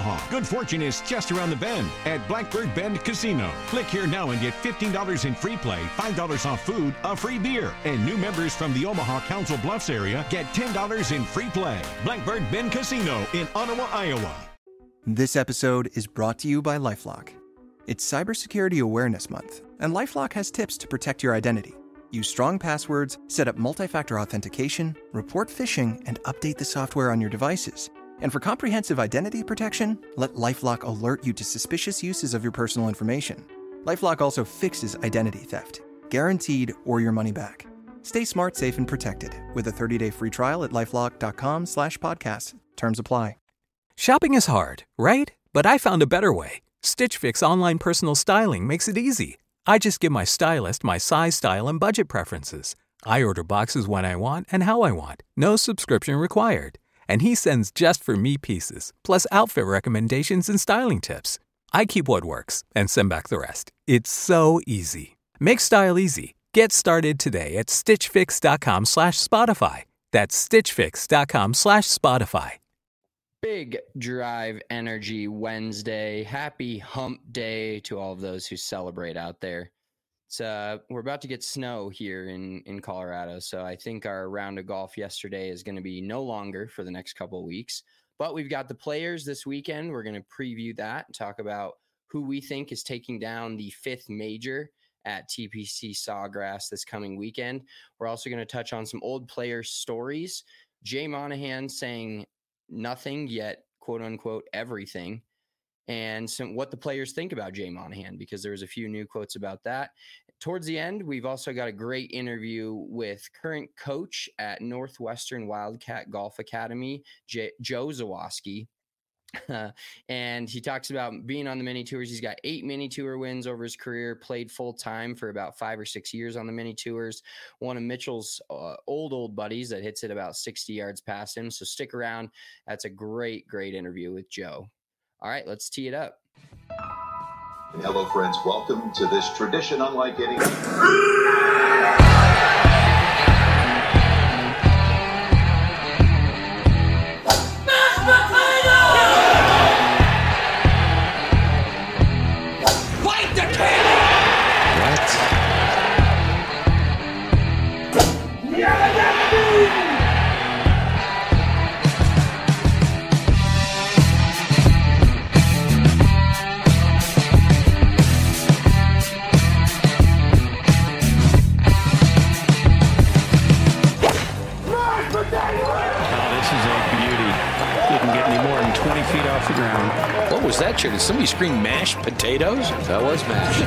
Omaha. Good fortune is just around the bend at Blackbird Bend Casino. Click here now and get $15 in free play, $5 off food, a free beer. And new members from the Omaha Council Bluffs area get $10 in free play. Blackbird Bend Casino in Ottawa, Iowa. This episode is brought to you by LifeLock. It's Cybersecurity Awareness Month, and LifeLock has tips to protect your identity. Use strong passwords, set up multi-factor authentication, report phishing, and update the software on your devices. And for comprehensive identity protection, let LifeLock alert you to suspicious uses of your personal information. LifeLock also fixes identity theft, guaranteed or your money back. Stay smart, safe, and protected with a 30-day free trial at LifeLock.com/podcast. Terms apply. Shopping is hard, right? But I found a better way. Stitch Fix online personal styling makes it easy. I just give my stylist my size, style, and budget preferences. I order boxes when I want and how I want. No subscription required. And he sends just for me pieces, plus outfit recommendations and styling tips. I keep what works and send back the rest. It's so easy. Make style easy. Get started today at stitchfix.com/Spotify. That's stitchfix.com/Spotify. Big Drive Energy Wednesday. Happy hump day to all of those who celebrate out there. It's we're about to get snow here in Colorado, so I think our round of golf yesterday is going to be no longer for the next couple of weeks. But we've got the players this weekend. We're going to preview that and talk about who we think is taking down the 5th major at TPC Sawgrass this coming weekend. We're also going to touch on some old player stories. Jay Monahan saying nothing yet, quote unquote, everything, and what the players think about Jay Monahan, because there was a few new quotes about that. Towards the end, we've also got a great interview with current coach at Northwestern Wildcat Golf Academy, Joe Zawoski. And he talks about being on the mini tours. He's got 8 mini tour wins over his career, played full time for about 5 or 6 years on the mini tours. One of Mitchell's old buddies that hits it about 60 yards past him. So stick around. That's a great interview with Joe. All right, let's tee it up. Hello, friends. Welcome to this tradition unlike any. What was that, Chair? Did somebody scream mashed potatoes? That was mashed.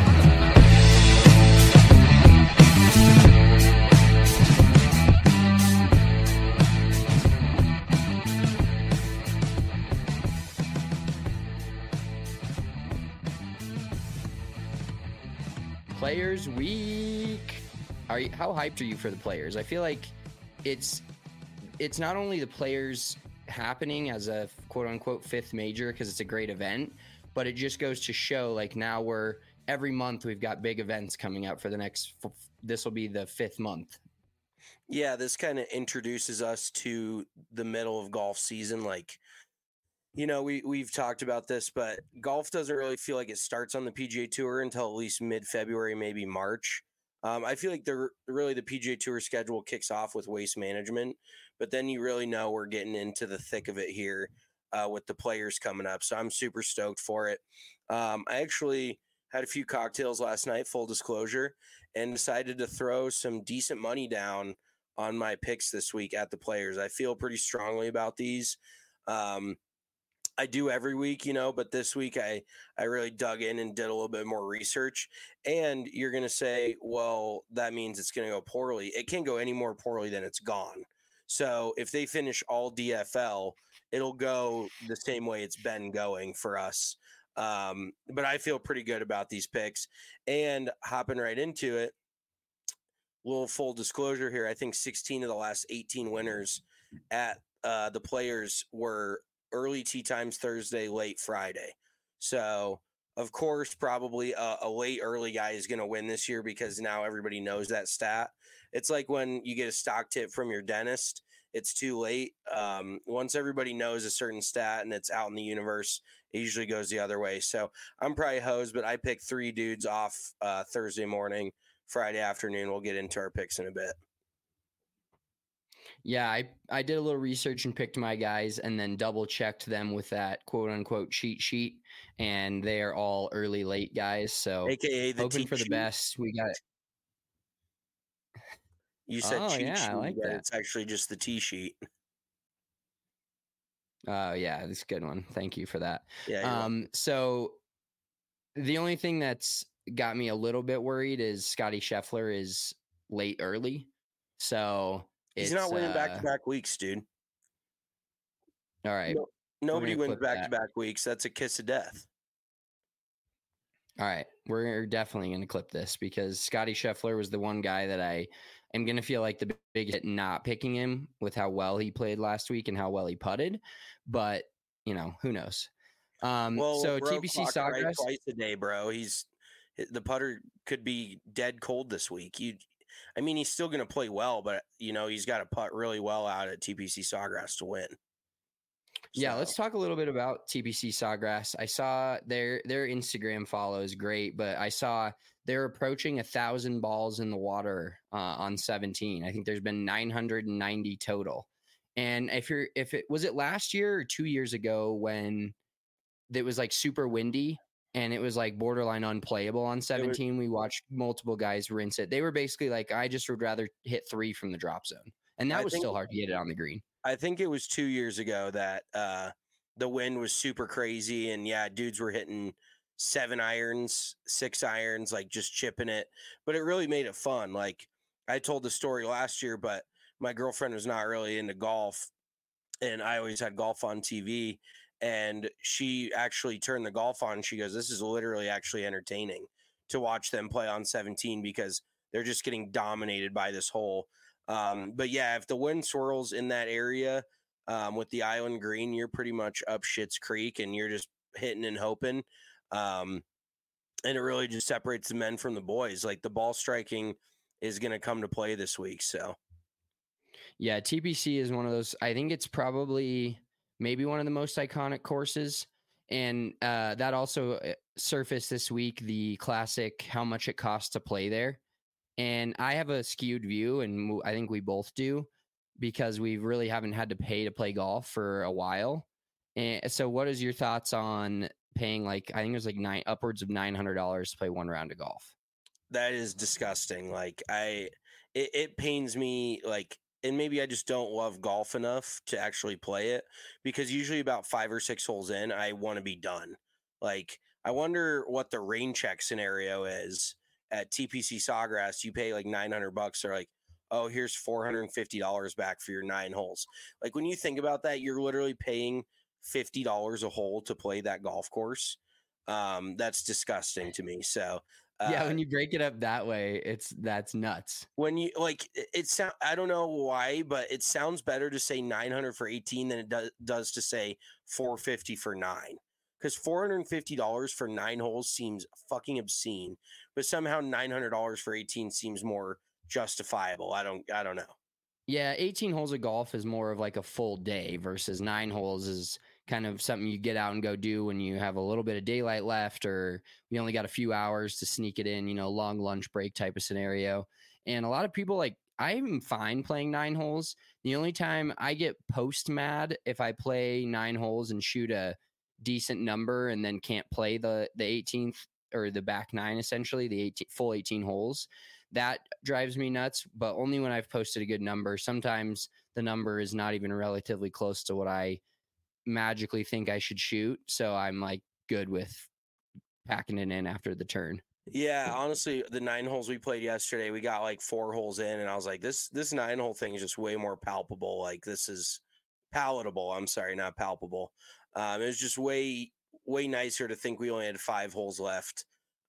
Players Week. How hyped are you for the players? I feel like it's not only the players happening as a quote-unquote 5th major because it's a great event, but it just goes to show, like, now every month we've got big events coming up for the next this will be the 5th month. Yeah, this kind of introduces us to the middle of golf season. Like, you know, we've talked about this, but golf doesn't really feel like it starts on the PGA Tour until at least mid-February, maybe March. I feel like the PGA Tour schedule kicks off with Waste Management, but then you really know we're getting into the thick of it here with the players coming up. So I'm super stoked for it. I actually had a few cocktails last night, full disclosure, and decided to throw some decent money down on my picks this week at the players. I feel pretty strongly about these. I do every week, you know, but this week I really dug in and did a little bit more research. And you're going to say, well, that means it's going to go poorly. It can't go any more poorly than it's gone. So if they finish all DFL, it'll go the same way it's been going for us. But I feel pretty good about these picks. And hopping right into it, little full disclosure here, I think 16 of the last 18 winners at the players were early tee times Thursday, late Friday. So, of course, probably a late early guy is going to win this year because now everybody knows that stat. It's like when you get a stock tip from your dentist it's too late. Once everybody knows a certain stat and it's out in the universe, it usually goes the other way. So I'm probably hosed, but I picked 3 dudes off Thursday morning, Friday afternoon. We'll get into our picks in a bit. Yeah, I did a little research and picked my guys and then double checked them with that quote unquote cheat sheet, and they are all early late guys. So AKA the hoping cheat for the sheet. best. We got You said cheat sheet, I like but that. it's actually just the T sheet. Oh yeah, that's a good one. Thank you for that. Yeah. So the only thing that's got me a little bit worried is Scotty Scheffler is late early. So he's not winning back-to-back weeks, dude. All right. Nobody wins back-to-back weeks. That's a kiss of death. All right. We're definitely going to clip this because Scotty Scheffler was the one guy that I am going to feel like the biggest not picking him with how well he played last week and how well he putted. But, who knows? So TPC Sawgrass right twice a day, bro. The putter could be dead cold this week. He's still going to play well, but he's got to putt really well out at TPC Sawgrass to win. Yeah, let's talk a little bit about TPC Sawgrass. I saw their Instagram follow is great, but I saw they're approaching 1,000 balls in the water on 17. I think there's been 990 total. And was it last year or 2 years ago when it was like super windy and it was like borderline unplayable on 17? We watched multiple guys rinse it. They were basically like, I just would rather hit 3 from the drop zone. And that was still hard to get it on the green. I think it was 2 years ago that the wind was super crazy. And yeah, dudes were hitting 7 irons, 6 irons, like just chipping it. But it really made it fun. Like I told the story last year, but my girlfriend was not really into golf. And I always had golf on TV. And she actually turned the golf on. She goes, this is literally actually entertaining to watch them play on 17 because they're just getting dominated by this hole. But yeah, if the wind swirls in that area with the island green, you're pretty much up Schitt's Creek and you're just hitting and hoping. And it really just separates the men from the boys. Like the ball striking is going to come to play this week. So yeah, TPC is one of those. I think it's probably maybe one of the most iconic courses. And that also surfaced this week, the classic, how much it costs to play there. And I have a skewed view, and I think we both do, because we really haven't had to pay to play golf for a while. And so what is your thoughts on paying I think it was upwards of $900 to play 1 round of golf? That is disgusting. Like it pains me, and maybe I just don't love golf enough to actually play it, because usually about 5 or 6 holes in, I want to be done. Like, I wonder what the rain check scenario is at TPC Sawgrass. You pay like $900. They're like, oh, here's $450 back for your 9 holes. Like, when you think about that, you're literally paying $50 a hole to play that golf course. That's disgusting to me. So yeah, when you break it up that way, that's nuts. When you I don't know why, but it sounds better to say 900 for 18 than it does to say 450 for 9. Because $450 for 9 holes seems fucking obscene, but somehow $900 for 18 seems more justifiable. I don't know. Yeah, 18 holes of golf is more of like a full day versus 9 holes is kind of something you get out and go do when you have a little bit of daylight left, or you only got a few hours to sneak it in, long lunch break type of scenario. And a lot of people I'm fine playing 9 holes. The only time I get post mad if I play 9 holes and shoot a decent number and then can't play the 18th or the back 9, essentially the full 18 holes. That drives me nuts, but only when I've posted a good number. Sometimes the number is not even relatively close to what I magically think I should shoot. So I'm good with packing it in after the turn. Yeah, honestly, the 9 holes we played yesterday, we got 4 holes in, and I was like, this 9 hole thing is just way more palpable. Like, this is palatable. I'm sorry, not palpable. It was just way nicer to think we only had 5 holes left.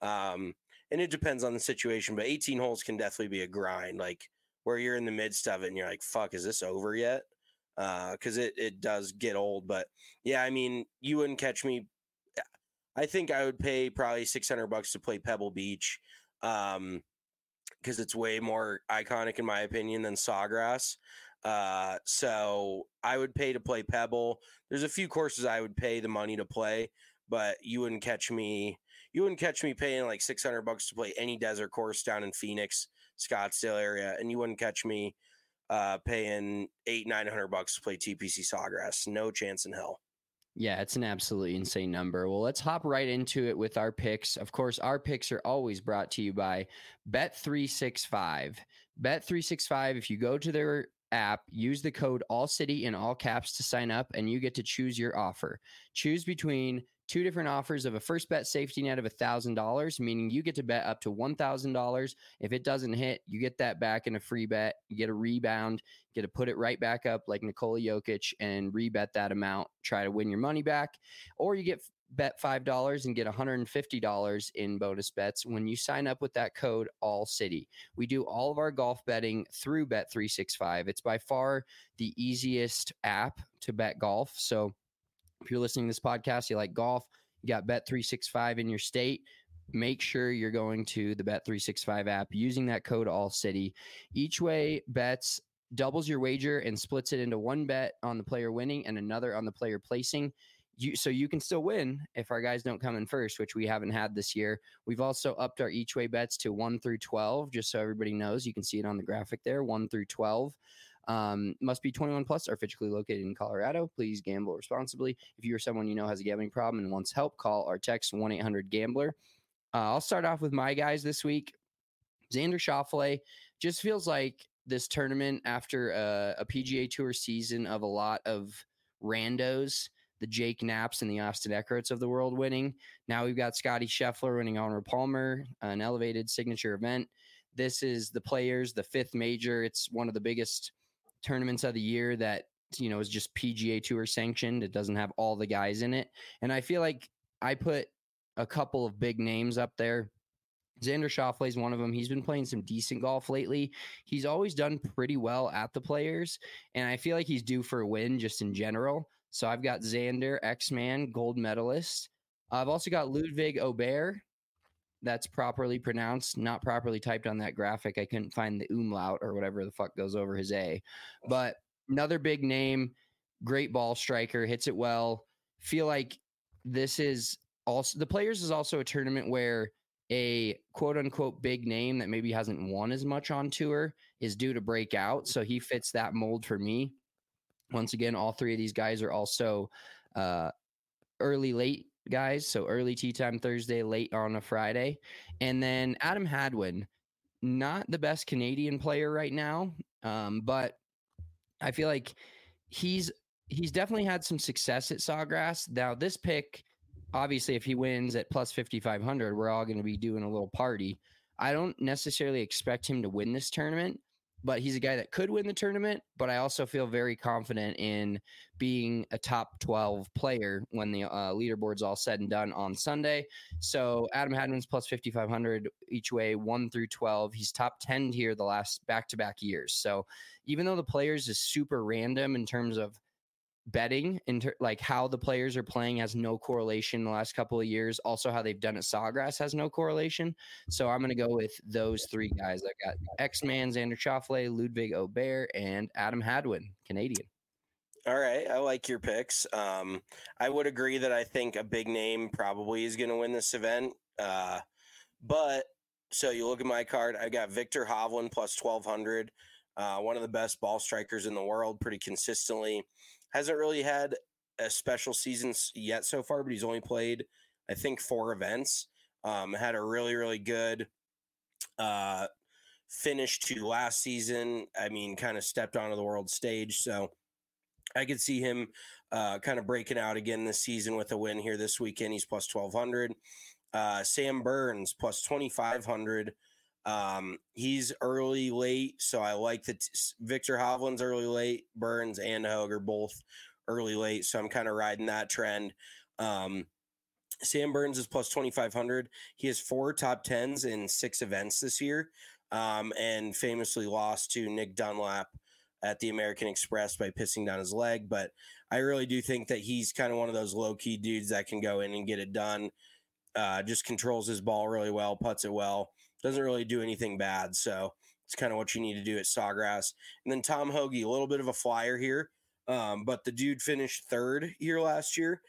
And it depends on the situation, but 18 holes can definitely be a grind, where you're in the midst of it and you're like, fuck, is this over yet? Because it does get old. But yeah, I mean, you wouldn't catch me. I think I would pay probably $600 to play Pebble Beach, because it's way more iconic in my opinion than Sawgrass. So I would pay to play Pebble. There's a few courses I would pay the money to play, but you wouldn't catch me paying like $600 to play any desert course down in Phoenix, Scottsdale area, and you wouldn't catch me paying $800-900 to play TPC Sawgrass. No chance in hell. Yeah, it's an absolutely insane number. Well, let's hop right into it with our picks. Of course, our picks are always brought to you by Bet365. Bet365, if you go to their app, use the code ALLCITY in all caps to sign up, and you get to choose your offer. Choose between two different offers of a first bet safety net of $1,000, meaning you get to bet up to $1,000. If it doesn't hit, you get that back in a free bet. You get a rebound, you get to put it right back up like Nikola Jokic and rebet that amount, try to win your money back. Or you get bet $5 and get $150 in bonus bets when you sign up with that code ALLCITY. We do all of our golf betting through Bet365. It's by far the easiest app to bet golf. So if you're listening to this podcast, you like golf, you got Bet365 in your state, make sure you're going to the Bet365 app using that code ALLCITY. Each way bets doubles your wager and splits it into one bet on the player winning and another on the player placing. So you can still win if our guys don't come in first, which we haven't had this year. We've also upped our each way bets to 1 through 12, just so everybody knows. You can see it on the graphic there, 1 through 12. Must be 21 plus, are physically located in Colorado. Please gamble responsibly. If you or someone you know has a gambling problem and wants help, call or text 1-800-GAMBLER. I'll start off with my guys this week. Xander Schauffele. Just feels like this tournament, after a PGA Tour season of a lot of randos, the Jake Knapps and the Austin Eckharts of the world winning. Now we've got Scotty Scheffler winning Arnold Palmer, an elevated signature event. This is the Players, the fifth major. It's one of the biggest tournaments of the year that, you know, is just PGA Tour sanctioned. It doesn't have all the guys in it. And I feel like I put a couple of big names up there. Xander Schauffele is one of them. He's been playing some decent golf lately. He's always done pretty well at the Players, and I feel like he's due for a win just in general. So I've got Xander, X-Man, gold medalist. I've also got Ludwig Aubert. That's properly pronounced, not properly typed on that graphic. I couldn't find the umlaut or whatever the fuck goes over his A. But another big name, great ball striker, hits it well. Feel like this is also, the Players is also a tournament where a quote-unquote big name that maybe hasn't won as much on tour is due to break out. So he fits that mold for me. Once again, all three of these guys are also early, late guys. So early tee time Thursday, late on a Friday. And then Adam Hadwin, not the best Canadian player right now, but I feel like he's definitely had some success at Sawgrass. Now, this pick, obviously, if he wins at plus 5,500, we're all going to be doing a little party. I don't necessarily expect him to win this tournament, but he's a guy that could win the tournament. But I also feel very confident in being a top 12 player when the leaderboard's all said and done on Sunday. So Adam Hadwin's plus 5,500 each way, 1 through 12. He's top 10 here the last back-to-back years. So even though the Players is super random in terms of betting, like how the Players are playing has no correlation in the last couple of years. Also, how they've done at Sawgrass has no correlation. So I'm going to go with those three guys. I got X-Man, Xander Schauffele, Ludwig Aubert, and Adam Hadwin, Canadian. All right, I like your picks. I would agree that I think a big name probably is going to win this event. But so you look at my card, I got Viktor Hovland plus 1,200, one of the best ball strikers in the world, pretty consistently. Hasn't really had a special season yet so far, but he's only played, I think, 4 events. Had a really, really good finish to last season. I mean, kind of stepped onto the world stage. So I could see him kind of breaking out again this season with a win here this weekend. He's plus 1,200. Sam Burns plus 2,500. He's early late, so I like that. Viktor Hovland's early late, Burns and Hogue are both early late, so I'm kind of riding that trend. Sam Burns is plus 2,500. He has 4 top 10s in 6 events this year, and famously lost to Nick Dunlap at the American Express by pissing down his leg. But I really do think that he's kind of one of those low-key dudes that can go in and get it done. Just controls his ball really well, putts it well. Doesn't really do anything bad. So It's kind of what you need to do at Sawgrass. And then Tom Hoge, a little bit of a flyer here, but the dude finished third here last year.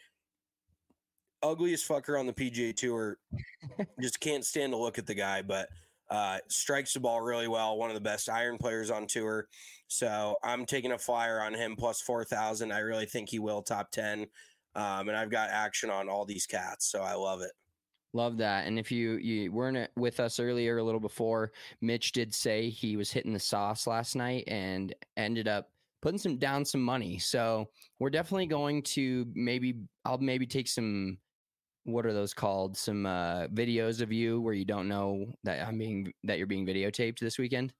Ugliest fucker on the PGA Tour. Just can't stand to look at the guy, but strikes the ball really well. One of the best iron players on tour. So I'm taking a flyer on him plus 4,000. I really think he will top 10. And I've got action on all these cats. So I love it. Love that. And if you weren't with us earlier, a little before, Mitch did say he was hitting the sauce last night and ended up putting down some money. So we're definitely going to I'll maybe take some, what are those called? Some videos of you where you don't know that you're being videotaped this weekend.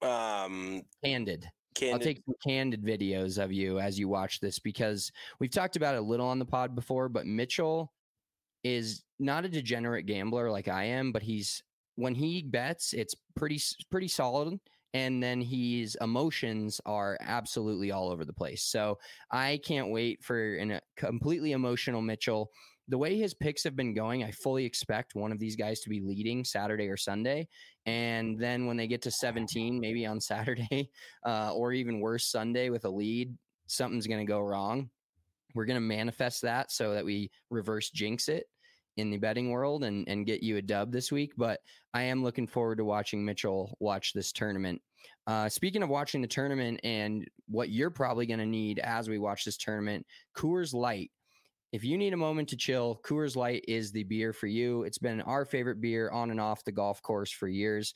Candid. I'll take some candid videos of you as you watch this, because we've talked about it a little on the pod before, but Mitchell is not a degenerate gambler like I am, but when he bets, it's pretty solid. And then his emotions are absolutely all over the place. So I can't wait for a completely emotional Mitchell. The way his picks have been going, I fully expect one of these guys to be leading Saturday or Sunday. And then when they get to 17, maybe on Saturday, or even worse, Sunday with a lead, something's going to go wrong. We're going to manifest that so that we reverse jinx it in the betting world and get you a dub this week. But I am looking forward to watching Mitchell watch this tournament. Speaking of watching the tournament and what you're probably going to need as we watch this tournament, Coors Light. If you need a moment to chill, Coors Light is the beer for you. It's been our favorite beer on and off the golf course for years.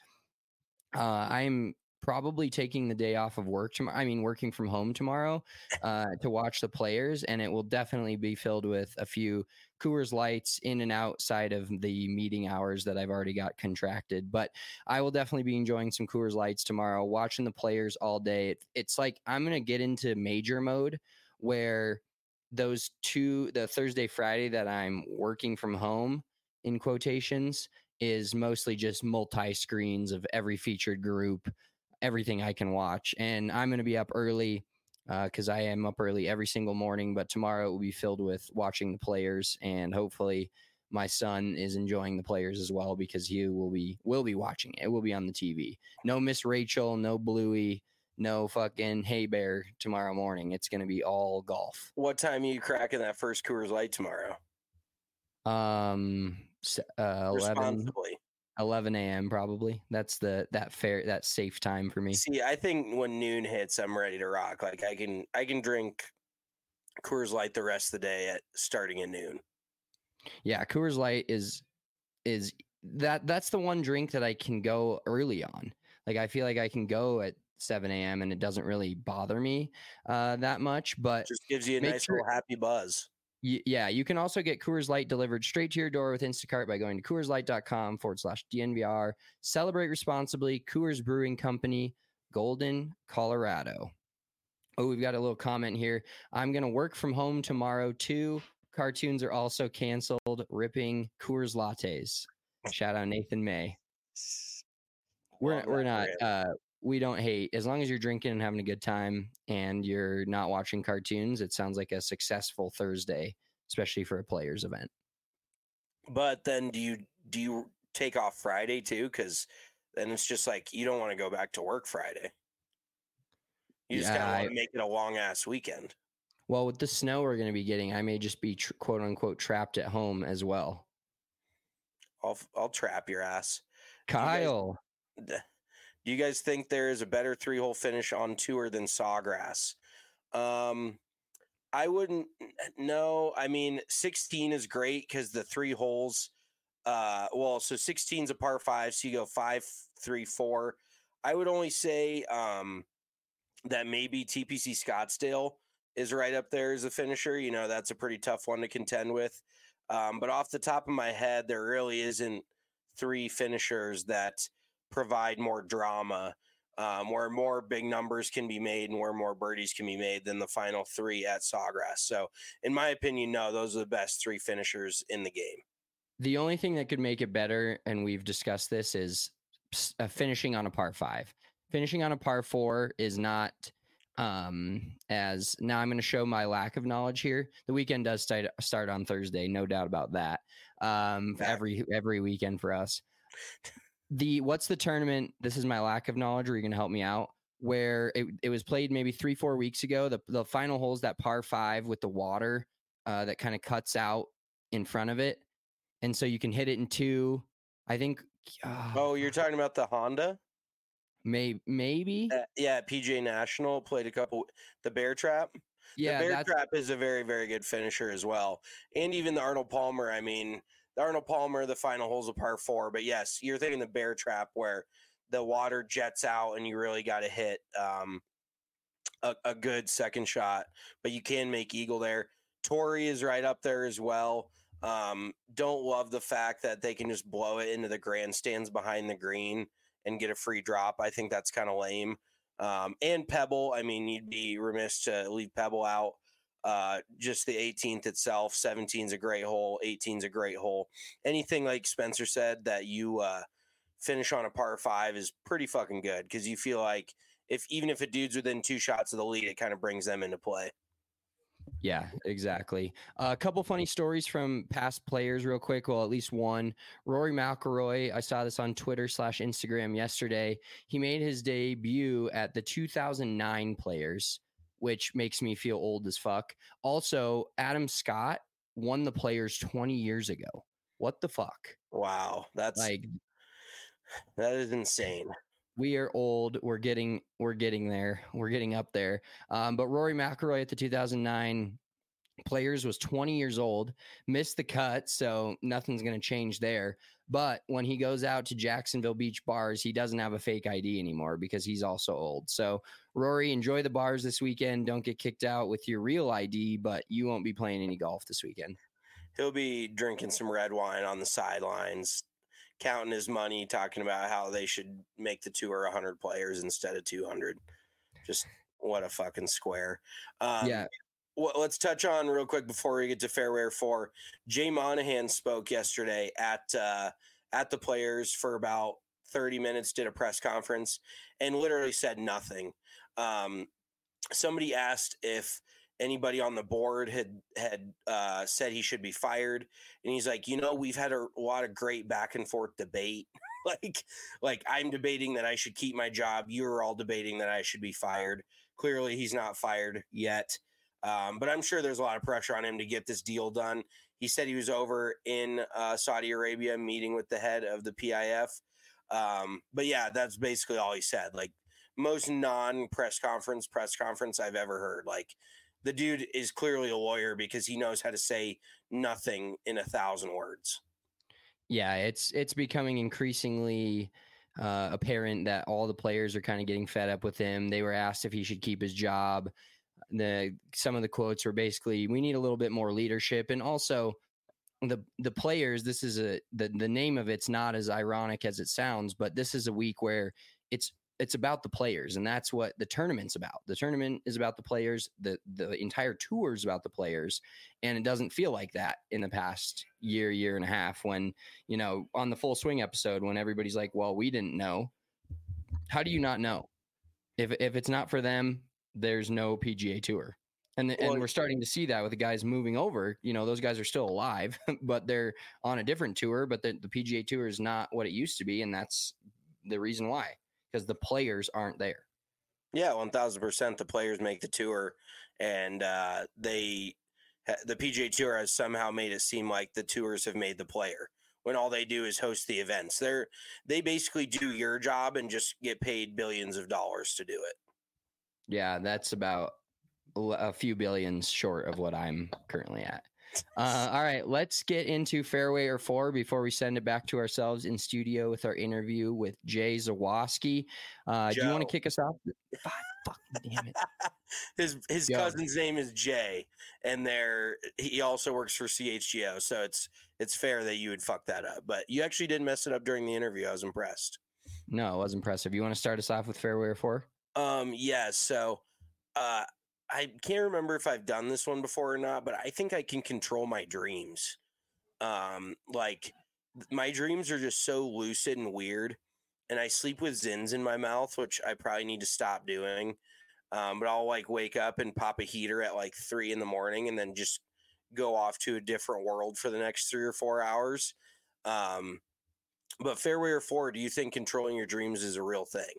I'm probably taking the day off of work working from home tomorrow to watch the players, and it will definitely be filled with a few Coors Lights in and outside of the meeting hours that I've already got contracted. But I will definitely be enjoying some Coors Lights tomorrow, watching the players all day. It's like I'm going to get into major mode where the Thursday, Friday that I'm working from home, in quotations, is mostly just multi-screens of every featured group, everything I can watch. And I'm going to be up early because I am up early every single morning, but tomorrow it will be filled with watching the players, and hopefully my son is enjoying the players as well, because he will be watching it. It will be on the TV. No Miss Rachel, no Bluey, no fucking Hey Bear tomorrow morning. It's going to be all golf. What time are you cracking that first Coors Light tomorrow? 11 a.m. probably. That's that safe time for me. See, I think when noon hits, I'm ready to rock. Like I can drink Coors Light the rest of the day starting at noon. Yeah, Coors Light is that's the one drink that I can go early on. Like I feel like I can go at 7 a.m. and it doesn't really bother me that much, but just gives you a nice little happy buzz. Yeah, you can also get Coors Light delivered straight to your door with Instacart by going to CoorsLight.com/DNVR. Celebrate responsibly. Coors Brewing Company, Golden, Colorado. Oh, we've got a little comment here. I'm going to work from home tomorrow too. Cartoons are also canceled. Ripping Coors lattes. Shout out Nathan May. We're not. We don't hate. As long as you're drinking and having a good time and you're not watching cartoons, it sounds like a successful Thursday, especially for a players event. But then do you take off Friday too? Because then it's just like you don't want to go back to work Friday. You just kind of want to make it a long ass weekend. Well, with the snow we're going to be getting, I may just be quote unquote trapped at home as well. I'll trap your ass, Kyle. Do you guys think there is a better 3-hole finish on tour than Sawgrass? I wouldn't know. I mean, 16 is great because the 3 holes. So 16 is a par 5, so you go 5, 3, 4. I would only say that maybe TPC Scottsdale is right up there as a finisher. You know, that's a pretty tough one to contend with. But off the top of my head, there really isn't 3 finishers that provide more drama, where more big numbers can be made and where more birdies can be made than the final 3 at Sawgrass. So in my opinion, no, those are the best 3 finishers in the game. The only thing that could make it better, and we've discussed this, is finishing on a par 5. Finishing on a par 4 is not as now I'm going to show my lack of knowledge here. The weekend does start on Thursday. No doubt about that. Every weekend for us. What's the tournament? This is my lack of knowledge. Are you going to help me out? Where it was played maybe 3-4 weeks ago. The final hole's that par 5 with the water that kind of cuts out in front of it, and so you can hit it in 2. I think. Oh, you're talking about the Honda? Maybe. Yeah, PGA National played a couple. The Bear Trap. Yeah, the Bear Trap is a very, very good finisher as well, and even the Arnold Palmer. I mean, the Arnold Palmer, the final hole's a par 4, but yes, you're thinking the Bear Trap where the water jets out and you really got to hit a good second shot, but you can make eagle there. Torrey is right up there as well. Don't love the fact that they can just blow it into the grandstands behind the green and get a free drop. I think that's kind of lame. And Pebble, I mean, you'd be remiss to leave Pebble out. Just the 18th itself, 17's a great hole, 18's a great hole. Anything like Spencer said that you finish on a par 5 is pretty fucking good because you feel like even if a dude's within 2 shots of the lead, it kind of brings them into play. Yeah, exactly. A couple funny stories from past players real quick. Well, at least one. Rory McIlroy, I saw this on Twitter/Instagram yesterday. He made his debut at the 2009 Players, which makes me feel old as fuck. Also, Adam Scott won the Players 20 years ago. What the fuck? Wow. That is insane. We are old. We're getting there. We're getting up there. But Rory McIlroy at the 2009 Players was 20 years old, missed the cut, so nothing's going to change there. But when he goes out to Jacksonville Beach bars, he doesn't have a fake ID anymore because he's also old. So Rory, enjoy the bars this weekend. Don't get kicked out with your real ID, but you won't be playing any golf this weekend. He'll be drinking some red wine on the sidelines, counting his money, talking about how they should make the tour 100 players instead of 200. Just what a fucking square. Yeah. Let's touch on real quick before we get to Fairway 4. Jay Monahan spoke yesterday at the Players for about 30 minutes, did a press conference, and literally said nothing. Somebody asked if anybody on the board had said he should be fired, and he's like, we've had a lot of great back and forth debate. like I'm debating that I should keep my job. You're all debating that I should be fired. Clearly he's not fired yet. But I'm sure there's a lot of pressure on him to get this deal done. He said he was over in Saudi Arabia meeting with the head of the PIF. But yeah, that's basically all he said. Like most non-press conference I've ever heard. Like the dude is clearly a lawyer because he knows how to say nothing in 1,000 words. Yeah, it's becoming increasingly apparent that all the players are kind of getting fed up with him. They were asked if he should keep his job. Some of the quotes were basically, we need a little bit more leadership. And also the players, this is the name of it's not as ironic as it sounds, but this is a week where it's about the players, and that's what the tournament's about. The tournament is about the players. The entire tour is about the players, and it doesn't feel like that in the past year and a half when, on the Full Swing episode, when everybody's like, well, we didn't know. How do you not know? If it's not for them, there's no PGA Tour. And we're starting to see that with the guys moving over. Those guys are still alive, but they're on a different tour. But the PGA Tour is not what it used to be, and that's the reason why, because the players aren't there. Yeah, 1,000%. The players make the tour, and the PGA Tour has somehow made it seem like the tours have made the player, when all they do is host the events. They basically do your job and just get paid billions of dollars to do it. Yeah, that's about a few billions short of what I'm currently at. All right, let's get into Fairway or 4 before we send it back to ourselves in studio with our interview with Jay Zawaski. Do you want to kick us off? Fucking damn it. His cousin's name is Jay, and he also works for CHGO, so it's fair that you would fuck that up. But you actually didn't mess it up during the interview. I was impressed. No, it was impressive. You want to start us off with Fairway or 4? Yeah, so I can't remember if I've done this one before or not, but I think I can control my dreams. Like my dreams are just so lucid and weird, and I sleep with Zins in my mouth, which I probably need to stop doing. But I'll like wake up and pop a heater at like 3 a.m. and then just go off to a different world for the next 3 or 4 hours. But fairway or four, do you think controlling your dreams is a real thing?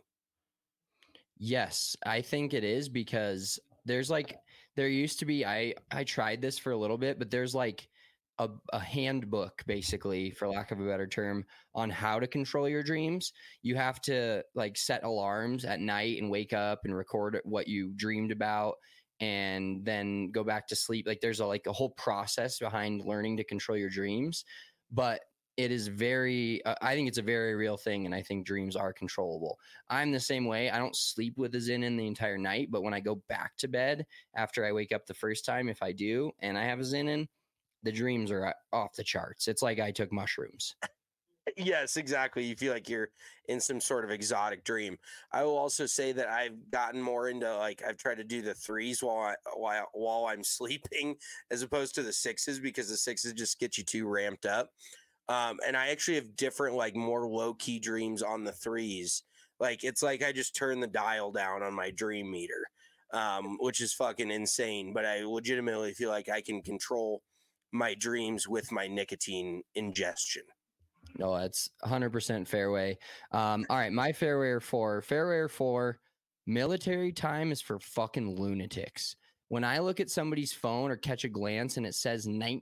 Yes, I think it is, because there used to be, I tried this for a little bit, but there's like a handbook, basically, for lack of a better term, on how to control your dreams. You have to like set alarms at night and wake up and record what you dreamed about and then go back to sleep. Like there's a whole process behind learning to control your dreams, but it is I think it's a very real thing. And I think dreams are controllable. I'm the same way. I don't sleep with a Zinn in the entire night, but when I go back to bed after I wake up the first time, if I do, and I have a Zinn in, the dreams are off the charts. It's like I took mushrooms. Yes, exactly. You feel like you're in some sort of exotic dream. I will also say that I've gotten more into I've tried to do the threes while I'm sleeping as opposed to the sixes, because the sixes just get you too ramped up. And I actually have different, more low key dreams on the threes. It's like I just turn the dial down on my dream meter, which is fucking insane. But I legitimately feel like I can control my dreams with my nicotine ingestion. No, that's 100% fairway. All right, my fairway or four, military time is for fucking lunatics. When I look at somebody's phone or catch a glance and it says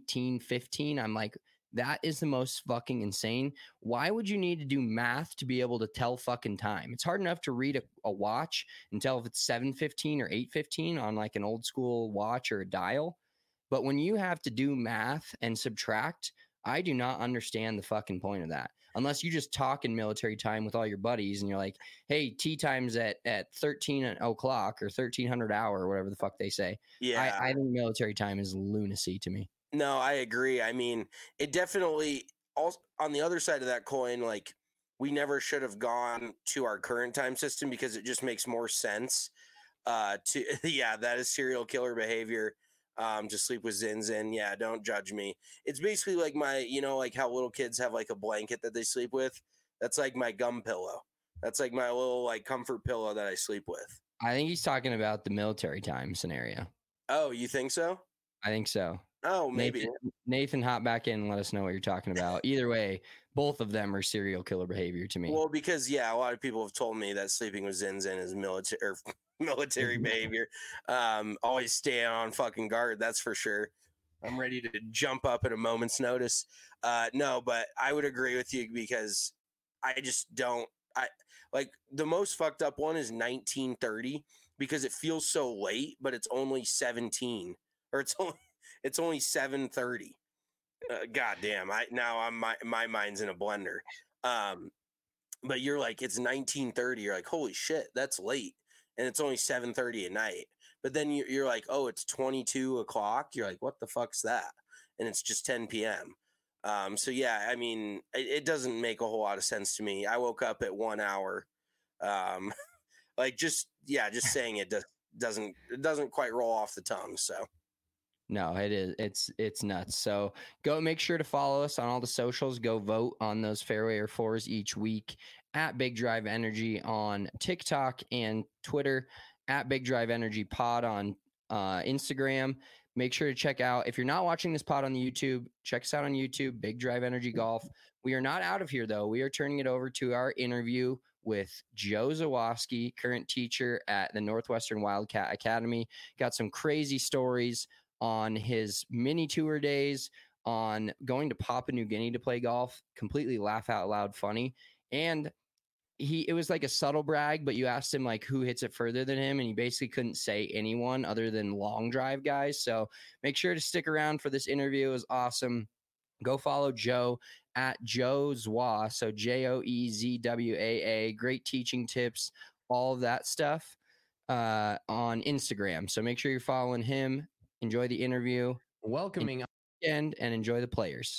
1915, I'm like, that is the most fucking insane. Why would you need to do math to be able to tell fucking time? It's hard enough to read a watch and tell if it's 7:15 or 8:15 on like an old school watch or a dial. But when you have to do math and subtract, I do not understand the fucking point of that. Unless you just talk in military time with all your buddies and you're like, hey, tea time's at 13 o'clock or 1300 hour or whatever the fuck they say. Yeah. I think military time is lunacy to me. No, I agree. I mean, it definitely, also, on the other side of that coin, we never should have gone to our current time system because it just makes more sense that is serial killer behavior. To sleep with Zinns in. Yeah, don't judge me. It's basically like my, how little kids have a blanket that they sleep with. That's like my gum pillow. That's like my little comfort pillow that I sleep with. I think he's talking about the military time scenario. Oh, you think so? I think so. Oh, maybe. Nathan, hop back in and let us know what you're talking about. Either way, both of them are serial killer behavior to me. Well, because, a lot of people have told me that sleeping with Zinns in is military behavior. Always stay on fucking guard. That's for sure. I'm ready to jump up at a moment's notice. No, but I would agree with you because I just don't. The most fucked up one is 1930 because it feels so late, but it's only 17 or it's only 7:30. God damn! My mind's in a blender. But you're like, it's 19:30. You're like, holy shit, that's late, and it's only 7:30 at night. But then you're like, oh, it's 22 o'clock. You're like, what the fuck's that? And it's just 10 p.m. So yeah, I mean, it doesn't make a whole lot of sense to me. I woke up at 1 hour. Just saying it doesn't quite roll off the tongue. So. No, it is. It's nuts. So go make sure to follow us on all the socials. Go vote on those fairway or fours each week at Big Drive Energy on TikTok and Twitter, at Big Drive Energy Pod on Instagram. Make sure to check out, if you're not watching this pod on the YouTube, check us out on YouTube, Big Drive Energy Golf. We are not out of here, though. We are turning it over to our interview with Joe Zawoski, current teacher at the Northwestern Wildcat Academy. Got some crazy stories on his mini tour days, on going to Papua New Guinea to play golf, completely laugh out loud funny. And it was like a subtle brag, but you asked him who hits it further than him, and he basically couldn't say anyone other than long drive guys. So make sure to stick around for this interview. It was awesome. Go follow Joe at Joe Zwa, so JoeZwaa. Great teaching tips, all of that stuff on Instagram. So make sure you're following him. Enjoy the interview. Welcoming and enjoy the players.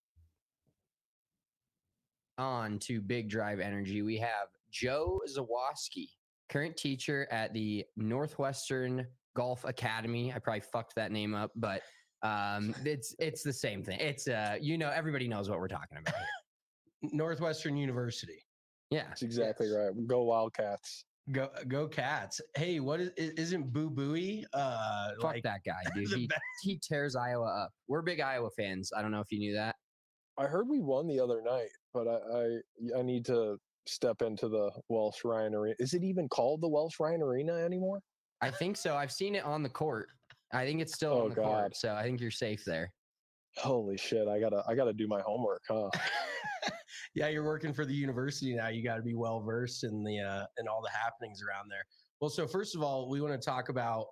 On to Big Drive Energy, we have Joe Zawoski, current teacher at the Northwestern Golf Academy. I probably fucked that name up, but it's the same thing. It's everybody knows what we're talking about here. Northwestern University. Yeah, that's exactly right. Go Wildcats. Go Cats. Hey, what isn't Boo Booey? Fuck that guy, dude. He tears Iowa up. We're big Iowa fans. I don't know if you knew that. I heard we won the other night, but I need to step into the Welsh Ryan Arena. Is it even called the Welsh Ryan Arena anymore? I think so. I've seen it on the court. I think it's still on the court, so I think you're safe there. Holy shit! I gotta do my homework, huh? Yeah, you're working for the university now. You got to be well versed in the in all the happenings around there. Well, so first of all, we want to talk about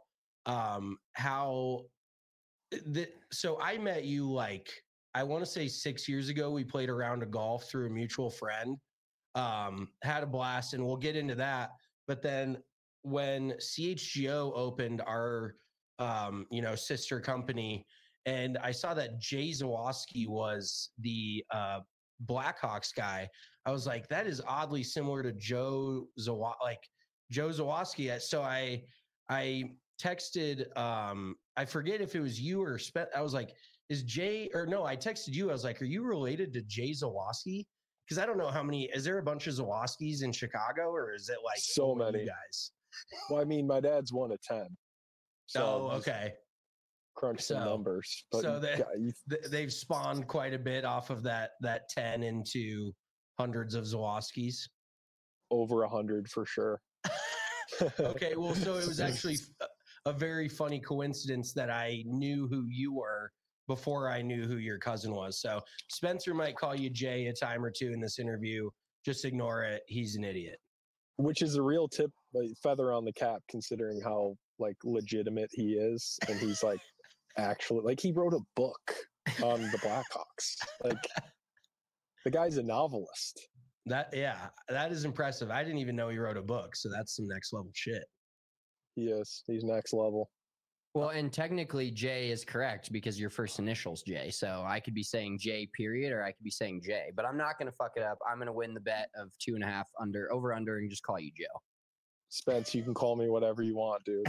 how. So I met you like I want to say 6 years ago. We played a round of golf through a mutual friend. Had a blast, and we'll get into that. But then when CHGO opened our sister company, and I saw that Jay Zawoski was the Blackhawks guy, I was like, that is oddly similar to Joe Zawoski. So I texted, I forget if it was you or I was like, is Jay, or no, I texted you. I was like, are you related to Jay Zawoski? Because I don't know how many, is there a bunch of Zawoskis in Chicago, or is it like so many guys? Well, I mean, my dad's 1 of 10. So okay. Crunch some numbers. But so they've spawned quite a bit off of that 10 into hundreds of Zawoskis. Over 100 for sure. Okay, well, so it was actually a very funny coincidence that I knew who you were before I knew who your cousin was. So Spencer might call you Jay a time or two in this interview. Just ignore it. He's an idiot. Which is a real tip, like, feather on the cap, considering how like legitimate he is. And he's like, actually, like, he wrote a book on the Blackhawks. Like, the guy's a novelist. That is impressive. I didn't even know he wrote a book. So that's some next level shit. He is. He's next level. Well, and technically J is correct because your first initial's J. So I could be saying J period, or I could be saying J, but I'm not going to fuck it up. I'm going to win the bet of 2.5 over and just call you Joe. Spence, you can call me whatever you want, dude.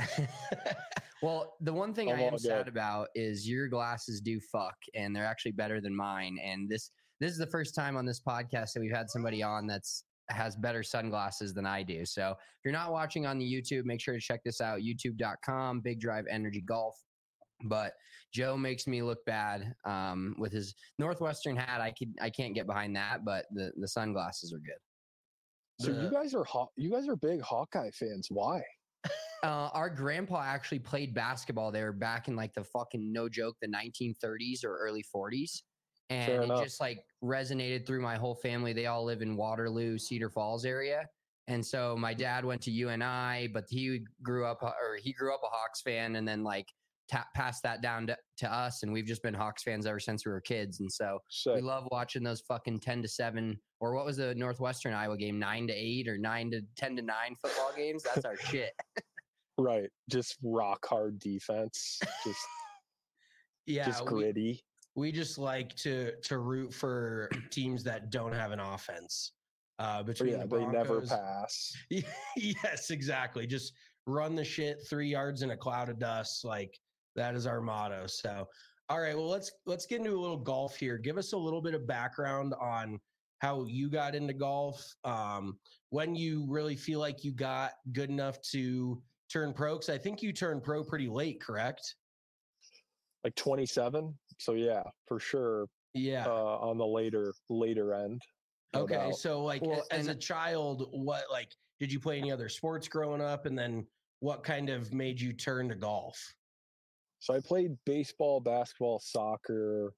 Well, the one thing I am sad about is your glasses do fuck, and they're actually better than mine. And this is the first time on this podcast that we've had somebody on has better sunglasses than I do. So if you're not watching on the YouTube, make sure to check this out, youtube.com, Big Drive Energy Golf. But Joe makes me look bad with his Northwestern hat. I can't get behind that, but the sunglasses are good. So you guys are big Hawkeye fans. Why? Our grandpa actually played basketball there back in like the fucking, no joke, the 1930s or early 40s. And it just like resonated through my whole family. They all live in Waterloo, Cedar Falls area. And so my dad went to UNI, but he grew up a Hawks fan, and then like passed that down to us. And we've just been Hawks fans ever since we were kids. And so we love watching those fucking 10-7, or what was the Northwestern Iowa game? 9-8 or 10-9 football games. That's our shit. Right. Just rock hard defense. Just gritty. We just like to root for teams that don't have an offense. Between the Broncos, they never pass. Yes, exactly. Just run the shit 3 yards in a cloud of dust. Like, that is our motto. So, all right, well, let's get into a little golf here. Give us a little bit of background on how you got into golf. When you really feel like you got good enough to turn pro, because I think you turned pro pretty late, correct? Like 27. So yeah, for sure. Yeah. On the later end. Okay. So like as a child, what, like, did you play any other sports growing up? And then what kind of made you turn to golf? So I played baseball, basketball, soccer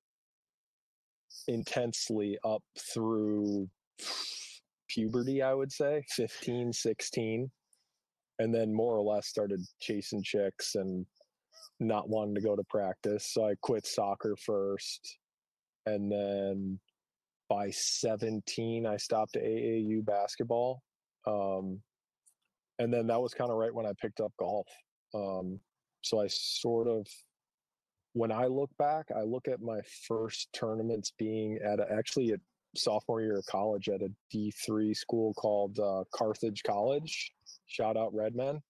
intensely up through puberty, I would say 15, 16. And then more or less started chasing chicks and not wanting to go to practice. So I quit soccer first. And then by 17, I stopped AAU basketball. And then that was kind of right when I picked up golf. So I sort of, when I look back, I look at my first tournaments being actually at sophomore year of college at a D3 school called Carthage College. Shout out Redmen.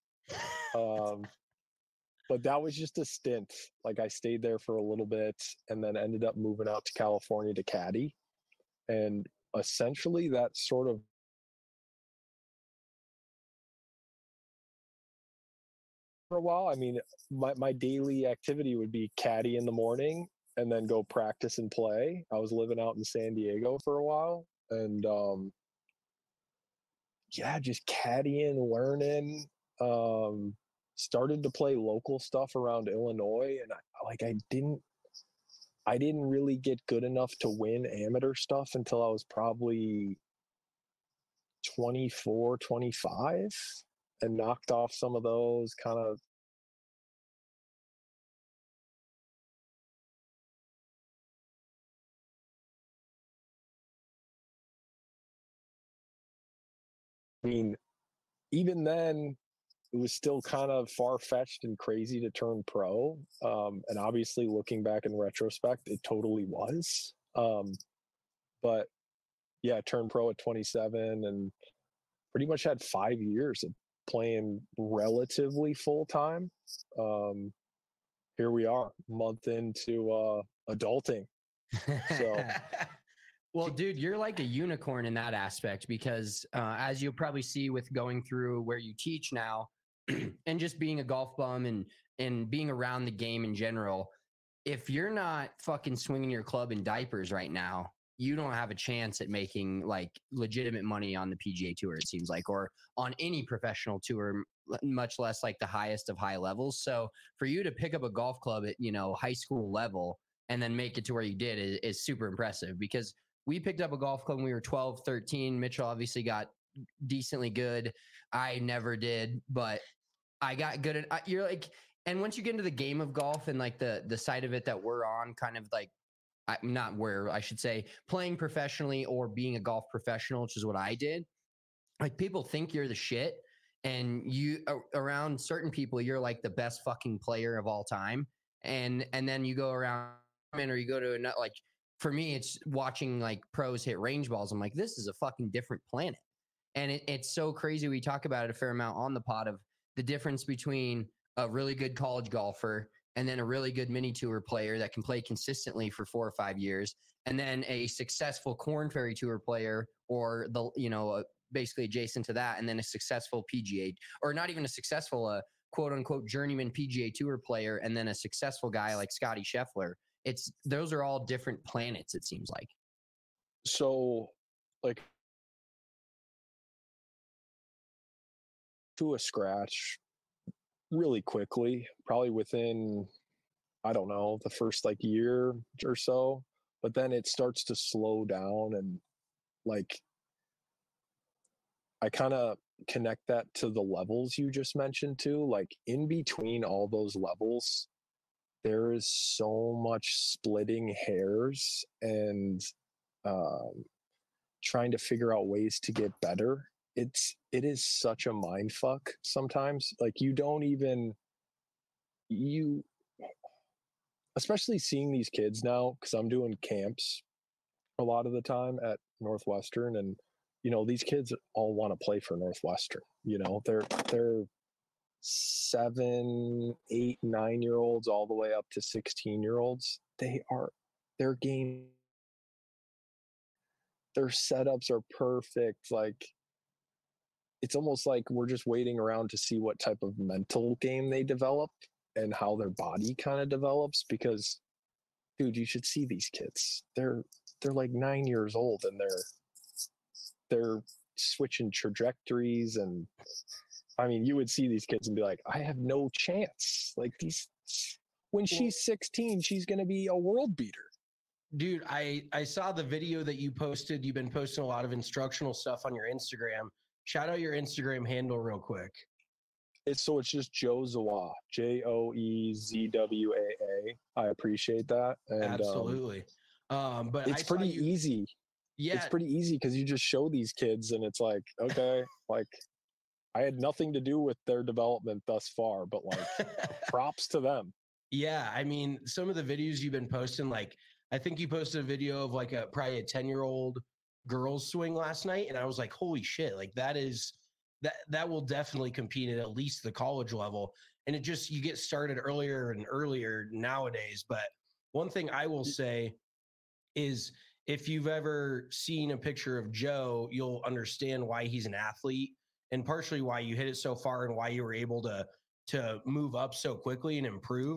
But that was just a stint. Like, I stayed there for a little bit and then ended up moving out to California to caddy. And essentially that sort of for a while. I mean, my daily activity would be caddy in the morning and then go practice and play. I was living out in San Diego for a while, and yeah, just caddying, learning. Started to play local stuff around Illinois, and I didn't really get good enough to win amateur stuff until I was probably 24, 25, and knocked off some of those kind of. I mean, even then, it was still kind of far-fetched and crazy to turn pro. And obviously, looking back in retrospect, it totally was. But yeah, I turned pro at 27 and pretty much had 5 years of playing relatively full-time. Here we are, a month into adulting. So... Well, dude, you're like a unicorn in that aspect because as you'll probably see with going through where you teach now and just being a golf bum and being around the game in general, if you're not fucking swinging your club in diapers right now, you don't have a chance at making like legitimate money on the PGA Tour, it seems like, or on any professional tour, much less like the highest of high levels. So for you to pick up a golf club at, high school level and then make it to where you did is super impressive because we picked up a golf club when we were 12, 13. Mitchell obviously got decently good. I never did, but I got good at you're like, and once you get into the game of golf and like the side of it that we're on, kind of like not where I should say playing professionally or being a golf professional, which is what I did. Like people think you're the shit and you around certain people, you're like the best fucking player of all time. And then you go around or you go to another, like, for me, it's watching like pros hit range balls. I'm like, this is a fucking different planet. And it's so crazy. We talk about it a fair amount on the pod of the difference between a really good college golfer and then a really good mini tour player that can play consistently for 4 or 5 years. And then a successful Corn Ferry Tour player or basically adjacent to that. And then a successful PGA or not even a successful, quote unquote, journeyman PGA Tour player. And then a successful guy like Scotty Scheffler. Those are all different planets, it seems like. So, like, to a scratch really quickly, probably within, I don't know, the first like year or so, but then it starts to slow down and like, I kind of connect that to the levels you just mentioned too. Like in between all those levels, there is so much splitting hairs and trying to figure out ways to get better. It is such a mind fuck sometimes. Like especially seeing these kids now, because I'm doing camps a lot of the time at Northwestern, and these kids all want to play for Northwestern. They're 7, 8, 9-year-olds all the way up to 16-year-olds. Their game, their setups are perfect. Like it's almost like we're just waiting around to see what type of mental game they develop and how their body kind of develops, because dude, you should see these kids. They're like 9 years old and they're switching trajectories, and I mean, you would see these kids and be like, I have no chance. Like when she's 16, she's going to be a world beater. Dude, I saw the video that you posted. You've been posting a lot of instructional stuff on your Instagram. Shout out your Instagram handle real quick. It's just Joe Zawa, JoeZwaa. I appreciate that. And, absolutely. But it's pretty easy. Yeah. It's pretty easy because you just show these kids and it's like, okay, like I had nothing to do with their development thus far, but like props to them. Yeah. I mean, some of the videos you've been posting, like I think you posted a video of like probably a 10-year-old girls swing last night. And I was like, holy shit, like that will definitely compete at least the college level. And you get started earlier and earlier nowadays. But one thing I will say is if you've ever seen a picture of Joe, you'll understand why he's an athlete and partially why you hit it so far and why you were able to move up so quickly and improve.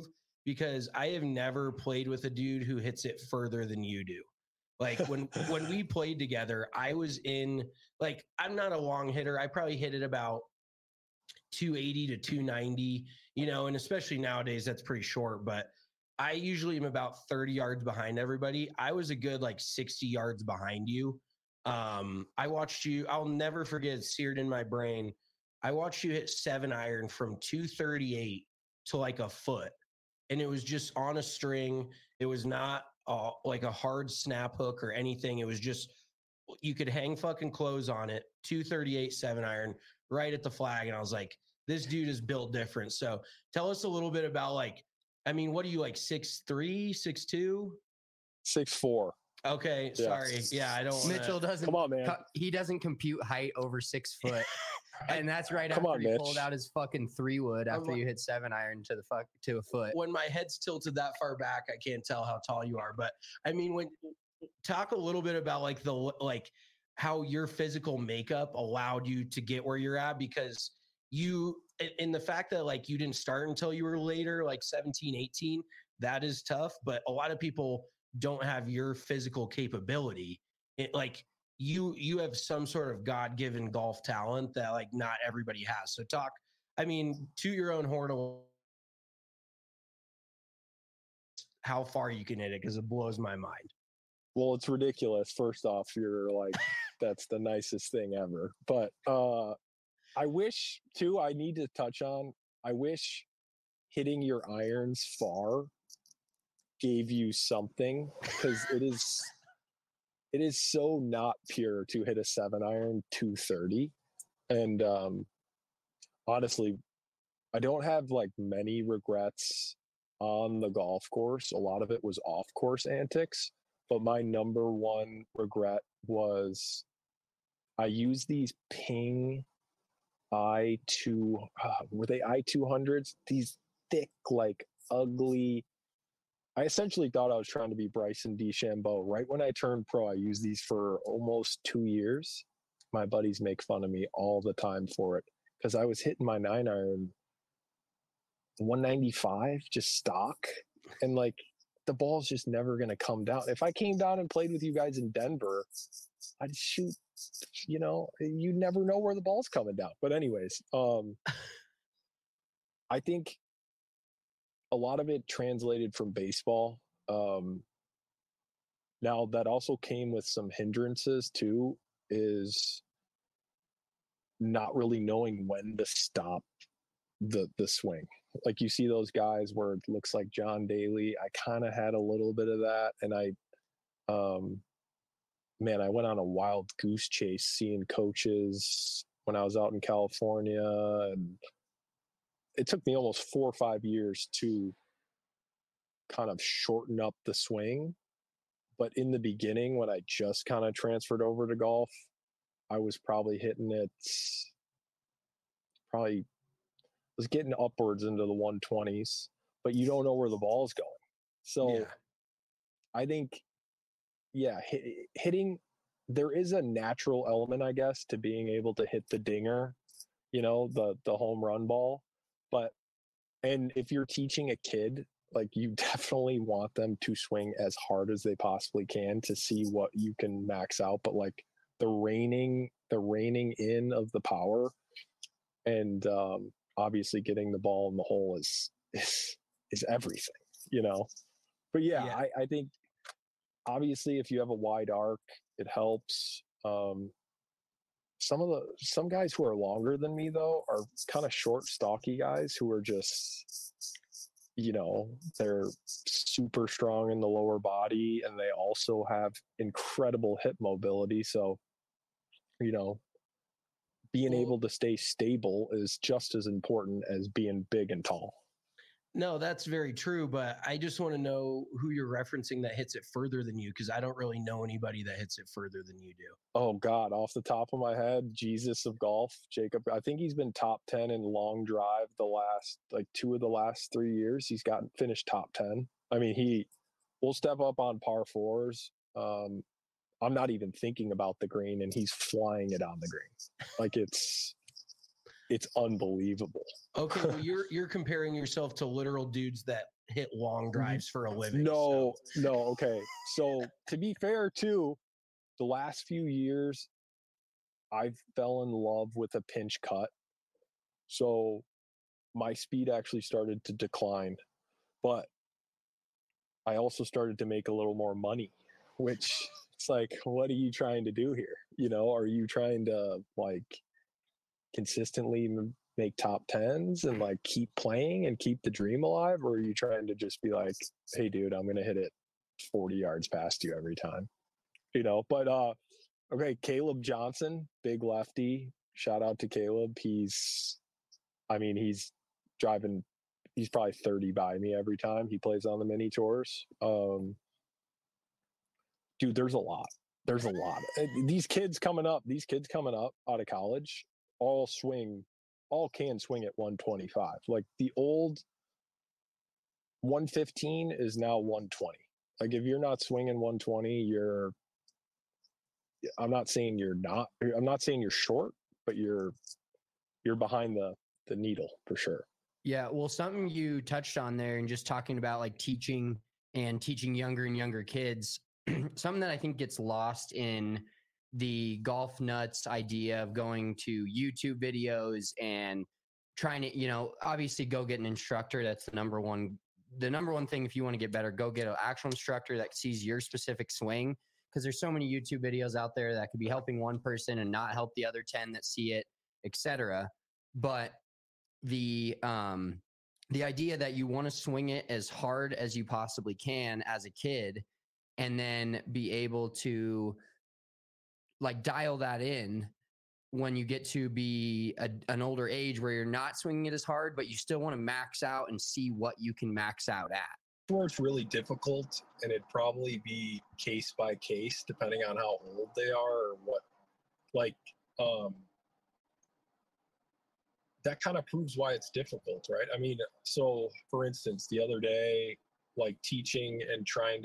because I have never played with a dude who hits it further than you do. Like when we played together, I was in, like, I'm not a long hitter. I probably hit it about 280 to 290, you know, and especially nowadays that's pretty short, but I usually am about 30 yards behind everybody. I was a good like 60 yards behind you. I watched you, I'll never forget, it's seared in my brain. I watched you hit 7-iron from 238 to like a foot. And it was just on a string. It was not like a hard snap hook or anything. It was just, you could hang fucking clothes on it, 238 7-iron right at the flag. And I was like, this dude is built different. So tell us a little bit about, like, I mean, what are you, like 6'3", 6'2"? 6'4". Okay, Yeah. sorry. Yeah, I don't. Mitchell doesn't. Come on, man. He doesn't compute height over 6 foot, and that's right Come after on, he Mitch. pulled out his fucking 3-wood after I'm- you hit 7-iron to a foot. When my head's tilted that far back, I can't tell how tall you are. But I mean, talk a little bit about like how your physical makeup allowed you to get where you're at, because you, and the fact that like you didn't start until you were later, like 17, 18, that is tough. But a lot of people don't have your physical capability. Like you have some sort of God-given golf talent that like not everybody has. So talk, I mean, to your own horn, how far you can hit it, because it blows my mind. Well, it's ridiculous. First off, you're like, that's the nicest thing ever. But I wish too, I need to touch on, I wish hitting your irons far gave you something, because it is so not pure to hit a 7-iron 230. And honestly, I don't have like many regrets on the golf course. A lot of it was off course antics, but my number one regret was I used these Ping were they i200s? These thick, like ugly. I essentially thought I was trying to be Bryson DeChambeau. Right when I turned pro, I used these for almost 2 years. My buddies make fun of me all the time for it, because I was hitting my 9-iron 195 just stock, and like the ball's just never going to come down. If I came down and played with you guys in Denver, I'd shoot, you know, you never know where the ball's coming down. But anyways, I think a lot of it translated from baseball. Now that also came with some hindrances too, is not really knowing when to stop the swing. Like you see those guys where it looks like John Daly. I kind of had a little bit of that, and I went on a wild goose chase seeing coaches when I was out in California, and it took me almost 4 or 5 years to kind of shorten up the swing. But in the beginning, when I just kind of transferred over to golf, I was probably hitting it, was getting upwards into the 120s, but you don't know where the ball's going. So yeah. I think, hitting, there is a natural element, I guess, to being able to hit the dinger, you know, the home run ball. And if you're teaching a kid, like, you definitely want them to swing as hard as they possibly can to see what you can max out. But like the reining in of the power, and obviously getting the ball in the hole is everything, you know. But yeah. I think obviously if you have a wide arc, it helps. Some guys who are longer than me though are kind of short, stocky guys who are just, you know, they're super strong in the lower body, and they also have incredible hip mobility. So, you know, being able to stay stable is just as important as being big and tall. No, that's very true. But I just want to know who you're referencing that hits it further than you, because I don't really know anybody that hits it further than you do. Oh God, off the top of my head, Jesus of golf, Jacob. I think he's been top 10 in long drive the last, like 2 of the last 3 years. He's finished top 10. I mean, he will step up on par 4s. I'm not even thinking about the green, and he's flying it on the green. Like it's unbelievable. Okay, well, you're comparing yourself to literal dudes that hit long drives for a living. No. Okay. So to be fair too, the last few years, I fell in love with a pinch cut. So my speed actually started to decline, but I also started to make a little more money, which it's like, what are you trying to do here? You know, are you trying to like consistently make top tens and like keep playing and keep the dream alive? Or are you trying to just be like, hey dude, I'm going to hit it 40 yards past you every time, you know? But, okay. Caleb Johnson, big lefty. Shout out to Caleb. He's driving, he's probably 30 by me every time he plays on the mini tours. Dude, there's a lot. These kids coming up out of college, all can swing at 125. Like the old 115 is now 120. Like if you're not swinging 120, I'm not saying you're short, but you're behind the needle for sure. Yeah, well, something you touched on there and just talking about like teaching younger and younger kids, something that I think gets lost in the golf nuts idea of going to YouTube videos and trying to, you know, obviously go get an instructor. That's the number one thing. If you want to get better, go get an actual instructor that sees your specific swing. Because there's so many YouTube videos out there that could be helping one person and not help the other 10 that see it, etc. But the idea that you want to swing it as hard as you possibly can as a kid and then be able to like dial that in when you get to be an older age where you're not swinging it as hard, but you still want to max out and see what you can max out at. Where it's really difficult, and it'd probably be case by case depending on how old they are or what, like, that kind of proves why it's difficult, right? I mean, so for instance, the other day, like teaching and trying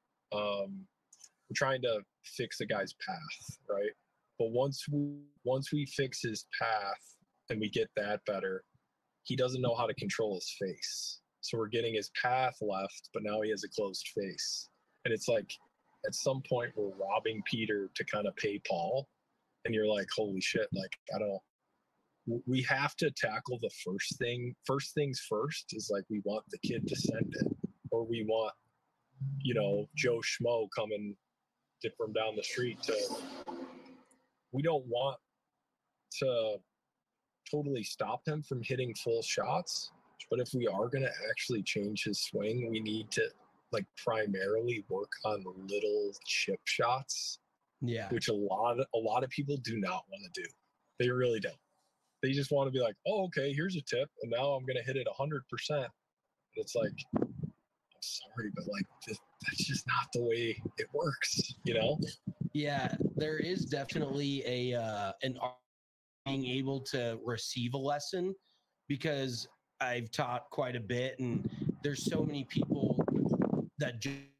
to fix a guy's path, right? But once we fix his path and we get that better, he doesn't know how to control his face. So we're getting his path left, but now he has a closed face. And it's like, at some point we're robbing Peter to kind of pay Paul. And you're like, holy shit, like, we have to tackle the first thing. First things first is like, we want the kid to send it, or we want, you know, Joe Schmo coming from down the street we don't want to totally stop him from hitting full shots. But if we are going to actually change his swing, we need to like primarily work on little chip shots. Yeah. Which a lot of people do not want to do. They really don't. They just want to be like, oh, okay, here's a tip, and now I'm going to hit it 100%. And it's like, I'm sorry, but like that's just not the way it works, you know? Yeah, there is definitely an art being able to receive a lesson, because I've taught quite a bit, and there's so many people that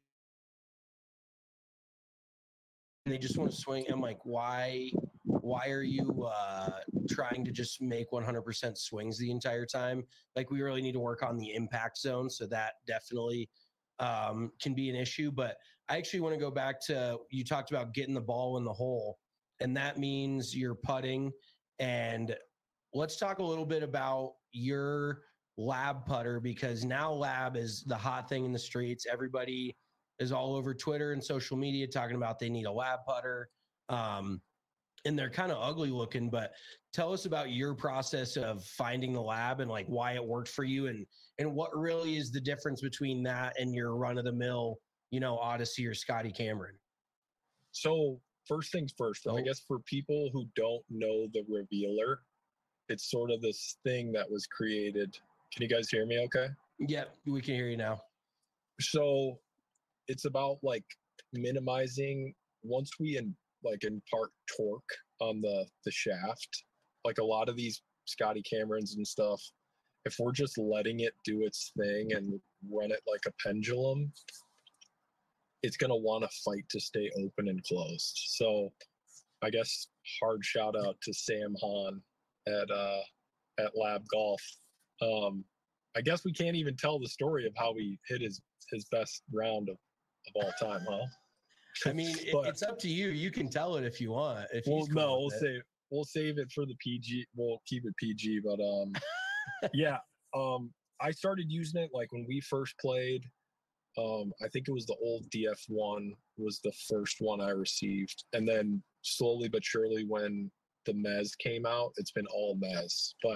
they just want to swing. I'm like, why are you trying to just make 100% swings the entire time? Like, we really need to work on the impact zone. So that definitely can be an issue. But I actually want to go back to, you talked about getting the ball in the hole, and that means you're putting. And let's talk a little bit about your lab putter, because now lab is the hot thing in the streets. Everybody is all over Twitter and social media talking about they need a lab putter. And they're kind of ugly looking, but tell us about your process of finding the lab and like why it worked for you, and what really is the difference between that and your run of the mill, you know, Odyssey or Scotty Cameron. So first things first, I guess for people who don't know the Revealer, it's sort of this thing that was created. Can you guys hear me okay? Yeah, we can hear you now. So it's about like minimizing, once we impart torque on the shaft, like a lot of these Scotty Camerons and stuff, if we're just letting it do its thing and run it like a pendulum, it's going to want to fight to stay open and closed. So I guess hard shout out to Sam Hahn at Lab Golf. I guess we can't even tell the story of how he hit his best round of all time, huh? I mean, it's up to you. You can tell it if you want. If we'll save it for the PG. We'll keep it PG. But yeah, I started using it like when we first played. I think it was the old DF1 was the first one I received, and then slowly but surely when the Mez came out, it's been all Mez. But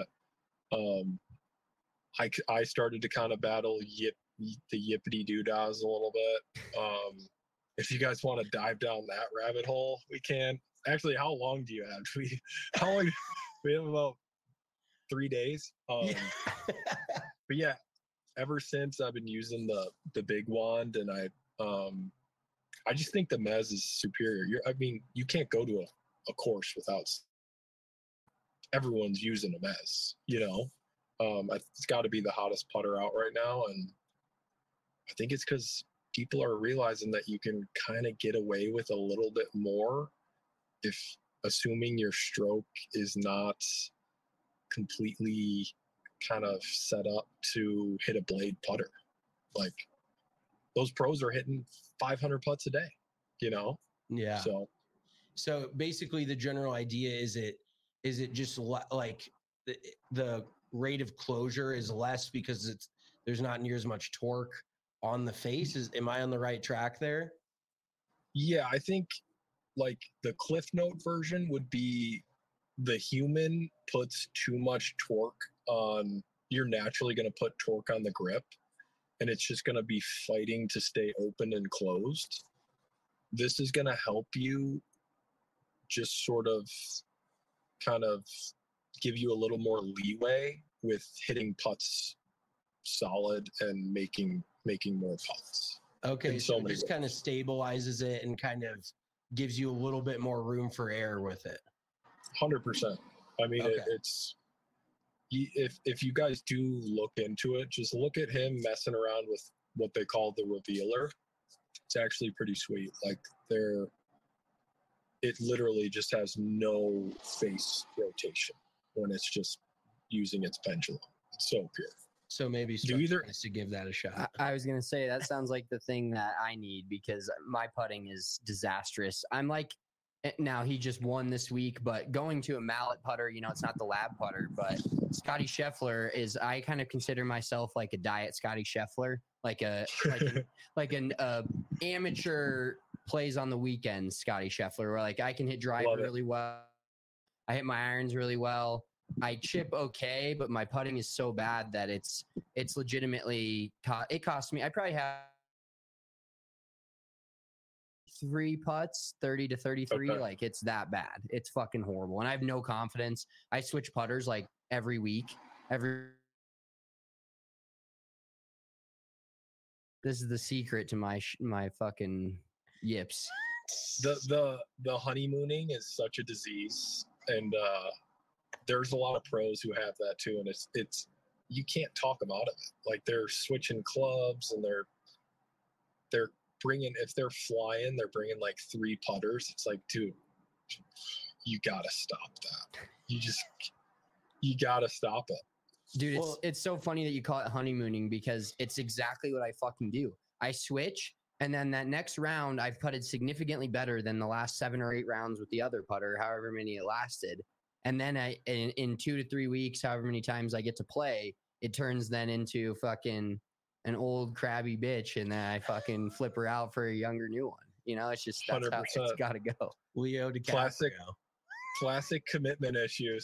I started to kind of battle the yippity doodahs a little bit. If you guys want to dive down that rabbit hole, we can. Actually, how long do you have? We have about 3 days. But yeah, ever since I've been using the big wand, and I just think the Mez is superior. I mean, you can't go to a course without everyone's using a Mez, you know. It's got to be the hottest putter out right now, and I think it's because people are realizing that you can kind of get away with a little bit more if assuming your stroke is not completely kind of set up to hit a blade putter. Like those pros are hitting 500 putts a day, you know? Yeah. So basically the general idea is it just like the rate of closure is less because there's not near as much torque on the face. Am I on the right track there? Yeah, I think like the Cliff Note version would be the human puts too much torque on, you're naturally going to put torque on the grip, and it's just going to be fighting to stay open and closed. This is going to help you just sort of kind of give you a little more leeway with hitting putts solid and making more putts. Okay, so it just kind of stabilizes it and kind of gives you a little bit more room for error with it. 100%. I mean, okay. It's if you guys do look into it, just look at him messing around with what they call the revealer. It's actually pretty sweet. Like it literally just has no face rotation when it's just using its pendulum. It's so pure. So maybe is to give that a shot. I was going to say that sounds like the thing that I need because my putting is disastrous. I'm like, now he just won this week, but going to a mallet putter, you know, it's not the lab putter, but Scotty Scheffler I kind of consider myself like a diet Scotty Scheffler, like an amateur plays on the weekends Scotty Scheffler, where like I can hit driver really well. I hit my irons really well. I chip okay, but my putting is so bad that it's legitimately it cost me. I probably have 3 putts, 30 to 33. Okay. Like it's that bad. It's fucking horrible, and I have no confidence. I switch putters like every week. This is the secret to my fucking yips. The honeymooning is such a disease, and there's a lot of pros who have that too, and it's you can't talk them out of it. Like they're switching clubs, and they're bringing, if they're flying, they're bringing like 3 putters. It's like, dude, you gotta stop that. You gotta stop it, dude. It's so funny that you call it honeymooning because it's exactly what I fucking do. I switch, and then that next round I've putted significantly better than the last 7 or 8 rounds with the other putter, however many it lasted. And then in 2 to 3 weeks, however many times I get to play, it turns then into fucking an old crabby bitch, and then I fucking flip her out for a younger new one. You know, it's just that's 100%. How it's got to go. Leo DiCaprio. Classic commitment issues.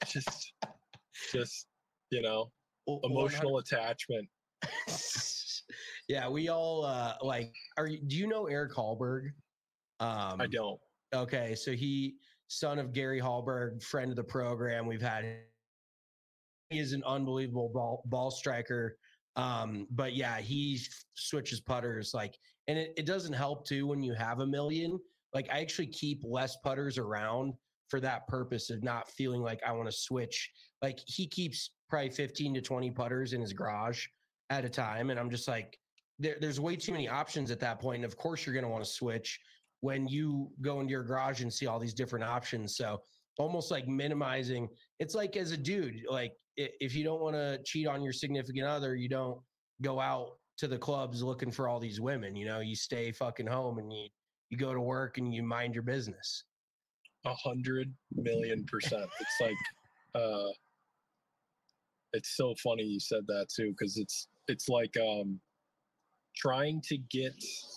just you know, emotional attachment. Yeah, we all do you know Eric Hallberg? I don't. Okay, so son of Gary Hallberg, friend of the program. He is an unbelievable ball striker. But yeah, he switches putters and it doesn't help too when you have $1 million. Like I actually keep less putters around for that purpose of not feeling like I want to switch. Like he keeps probably 15 to 20 putters in his garage at a time. And I'm just like, there's way too many options at that point. And of course you're going to want to switch when you go into your garage and see all these different options. So almost like minimizing, it's like as a dude, like if you don't want to cheat on your significant other, you don't go out to the clubs looking for all these women. You stay fucking home and you go to work and you mind your business. 100 million %. It's like, it's so funny you said that too, because it's like trying to get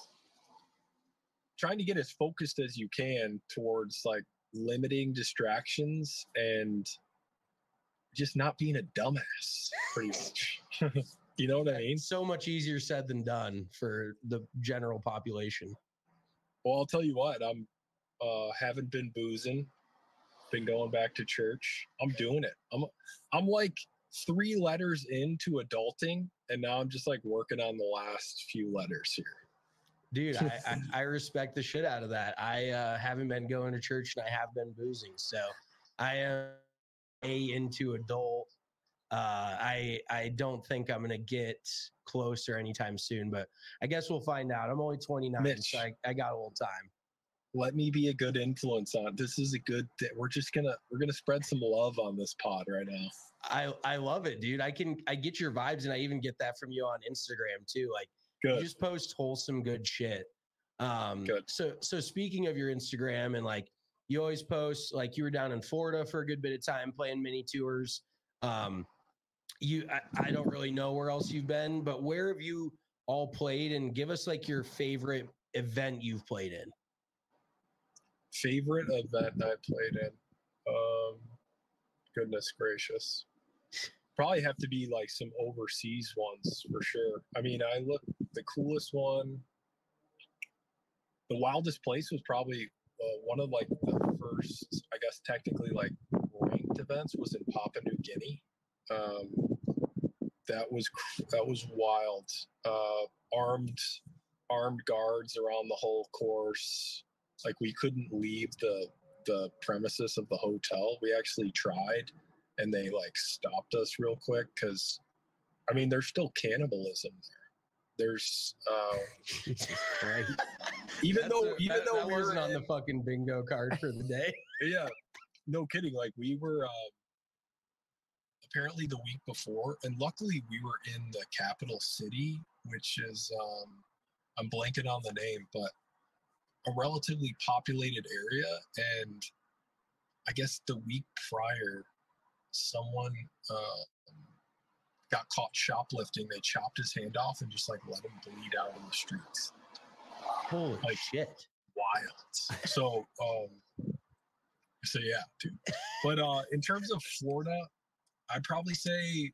as focused as you can towards like limiting distractions and just not being a dumbass, pretty much. You know what I mean? So much easier said than done for the general population. Well, I'll tell you what, I'm haven't been boozing, been going back to church. I'm doing it. I'm like 3 letters into adulting, and now I'm just like working on the last few letters here. Dude, I respect the shit out of that. I haven't been going to church and I have been boozing. So I am into adult. I don't think I'm going to get closer anytime soon, but I guess we'll find out. I'm only 29, Mitch, so I got a little time. Let me be a good influence on. This is a good thing. We're gonna spread some love on this pod right now. I love it, dude. I get your vibes, and I even get that from you on Instagram too. Like, good. You just post wholesome, good shit. Good. So speaking of your Instagram, and like you always post, like you were down in Florida for a good bit of time playing mini tours. I don't really know where else you've been, but where have you all played? And give us like your favorite event you've played in. Favorite event I played in? Goodness gracious. Probably have to be like some overseas ones for sure. I mean, the coolest one, the wildest place was probably one of like the first, I guess technically like ranked events was in Papua New Guinea. That was wild. Armed guards around the whole course. Like we couldn't leave the premises of the hotel. We actually tried, and they like stopped us real quick because, I mean, there's still cannibalism there. There's even though we wasn't on the fucking bingo card for the day. Yeah, no kidding. Like we were apparently the week before, and luckily we were in the capital city, which is I'm blanking on the name, but a relatively populated area. And I guess the week prior, someone got caught shoplifting. They chopped his hand off and just like let him bleed out in the streets. Holy shit. Wild. So yeah, dude. But in terms of Florida, I'd probably say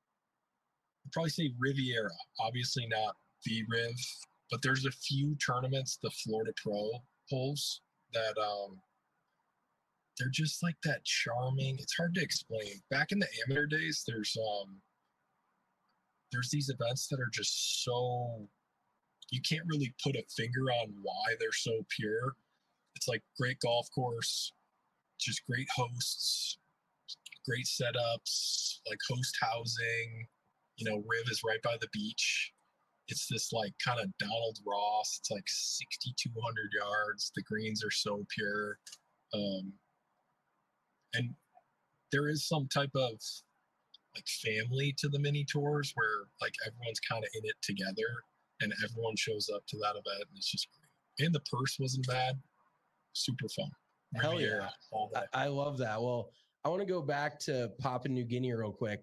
Riviera. Obviously not the Riv, but there's a few tournaments, the Florida Pro holes, that they're just like that charming. It's hard to explain. Back in the amateur days, there's these events that are just so, you can't really put a finger on why they're so pure. It's like great golf course, just great hosts, great setups, like host housing. Riv is right by the beach. It's this like kind of Donald Ross. It's like 6,200 yards. The greens are so pure. And there is some type of like family to the mini tours where like everyone's kind of in it together and everyone shows up to that event, and it's just great. And the purse wasn't bad. Super fun. Hell yeah. I love that. Well, I want to go back to Papua New Guinea real quick.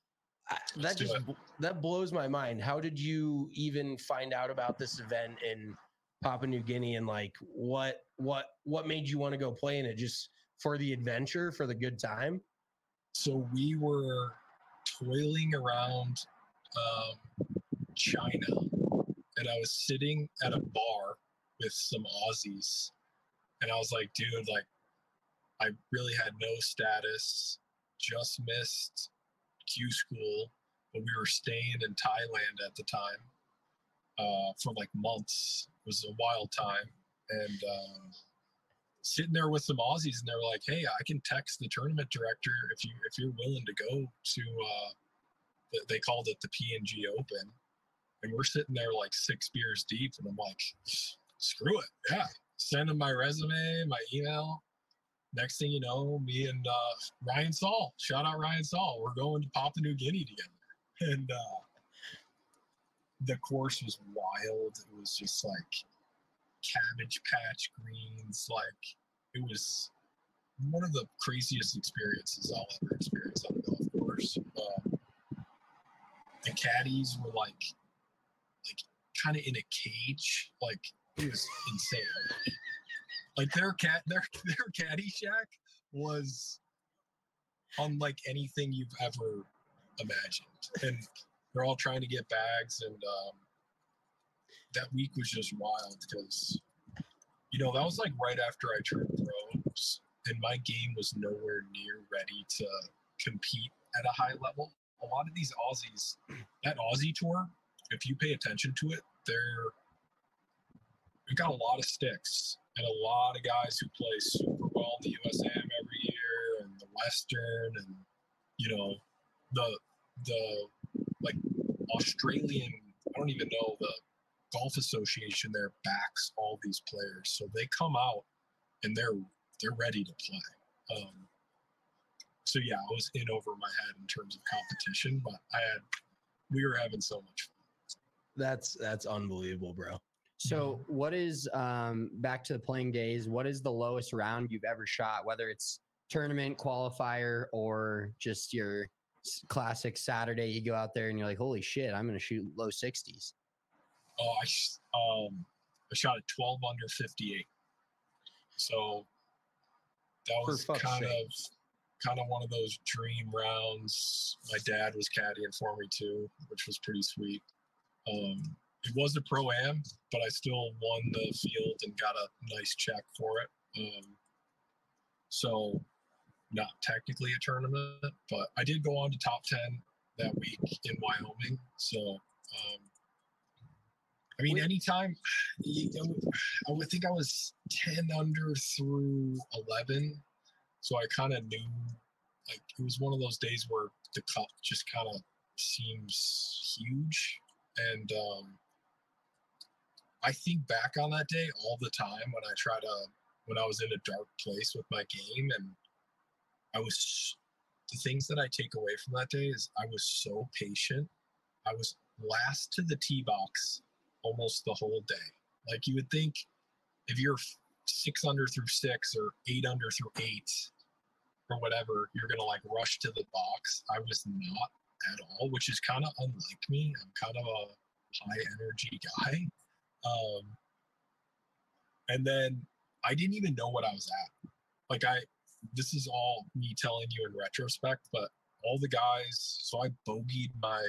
That blows my mind. How did you even find out about this event in Papua New Guinea, and like what made you want to go play in it? Just for the adventure, for the good time? So we were toiling around China, and I was sitting at a bar with some Aussies, and I was like, dude, like I really had no status, just missed Q school, but we were staying in Thailand at the time for like months. It was a wild time. And sitting there with some Aussies, and they were like, hey, I can text the tournament director if you're willing to go to they called it the PNG Open. And we're sitting there like 6 beers deep, and I'm like, screw it. Yeah. Send them my resume, my email. next thing you know, me and Ryan Saul, shout out Ryan Saul, we're going to Papua New Guinea together. And the course was wild. It was just like cabbage patch greens. Like, it was one of the craziest experiences I'll ever experience on a golf course. The caddies were like kind of in a cage. Like, it was insane. Like their caddy shack was unlike anything you've ever imagined, and they're all trying to get bags. And that week was just wild because, you know, that was like right after I turned pros, and my game was nowhere near ready to compete at a high level. A lot of these Aussies, that Aussie tour, if you pay attention to it, we've got a lot of sticks and a lot of guys who play super well in the USAM every year and the Western, and, you know, the like Australian, I don't even know, the golf association there backs all these players. So they come out and they're ready to play. So yeah, I was in over my head in terms of competition, but we were having so much fun. That's unbelievable, bro. So what is, back to the playing days, what is the lowest round you've ever shot, whether it's tournament, qualifier, or just your classic Saturday, you go out there and you're like, holy shit, I'm going to shoot low 60s? Oh, I shot at 12 under 58. So that was kind of one of those dream rounds. My dad was caddying for me too, which was pretty sweet. It was a pro-am, but I still won the field and got a nice check for it. So not technically a tournament, but I did go on to top 10 that week in Wyoming. So, I mean, anytime, I would think I was 10 under through 11. So I kind of knew, like, it was one of those days where the cup just kind of seems huge. And I think back on that day all the time when I was in a dark place with my game, and the things that I take away from that day is I was so patient. I was last to the tee box almost the whole day. Like, you would think if you're 6 under through 6 or 8 under through 8 or whatever, you're going to like rush to the box. I was not at all, which is kind of unlike me. I'm kind of a high energy guy. And then I didn't even know what I was at. Like, this is all me telling you in retrospect, but all the guys, so I bogeyed my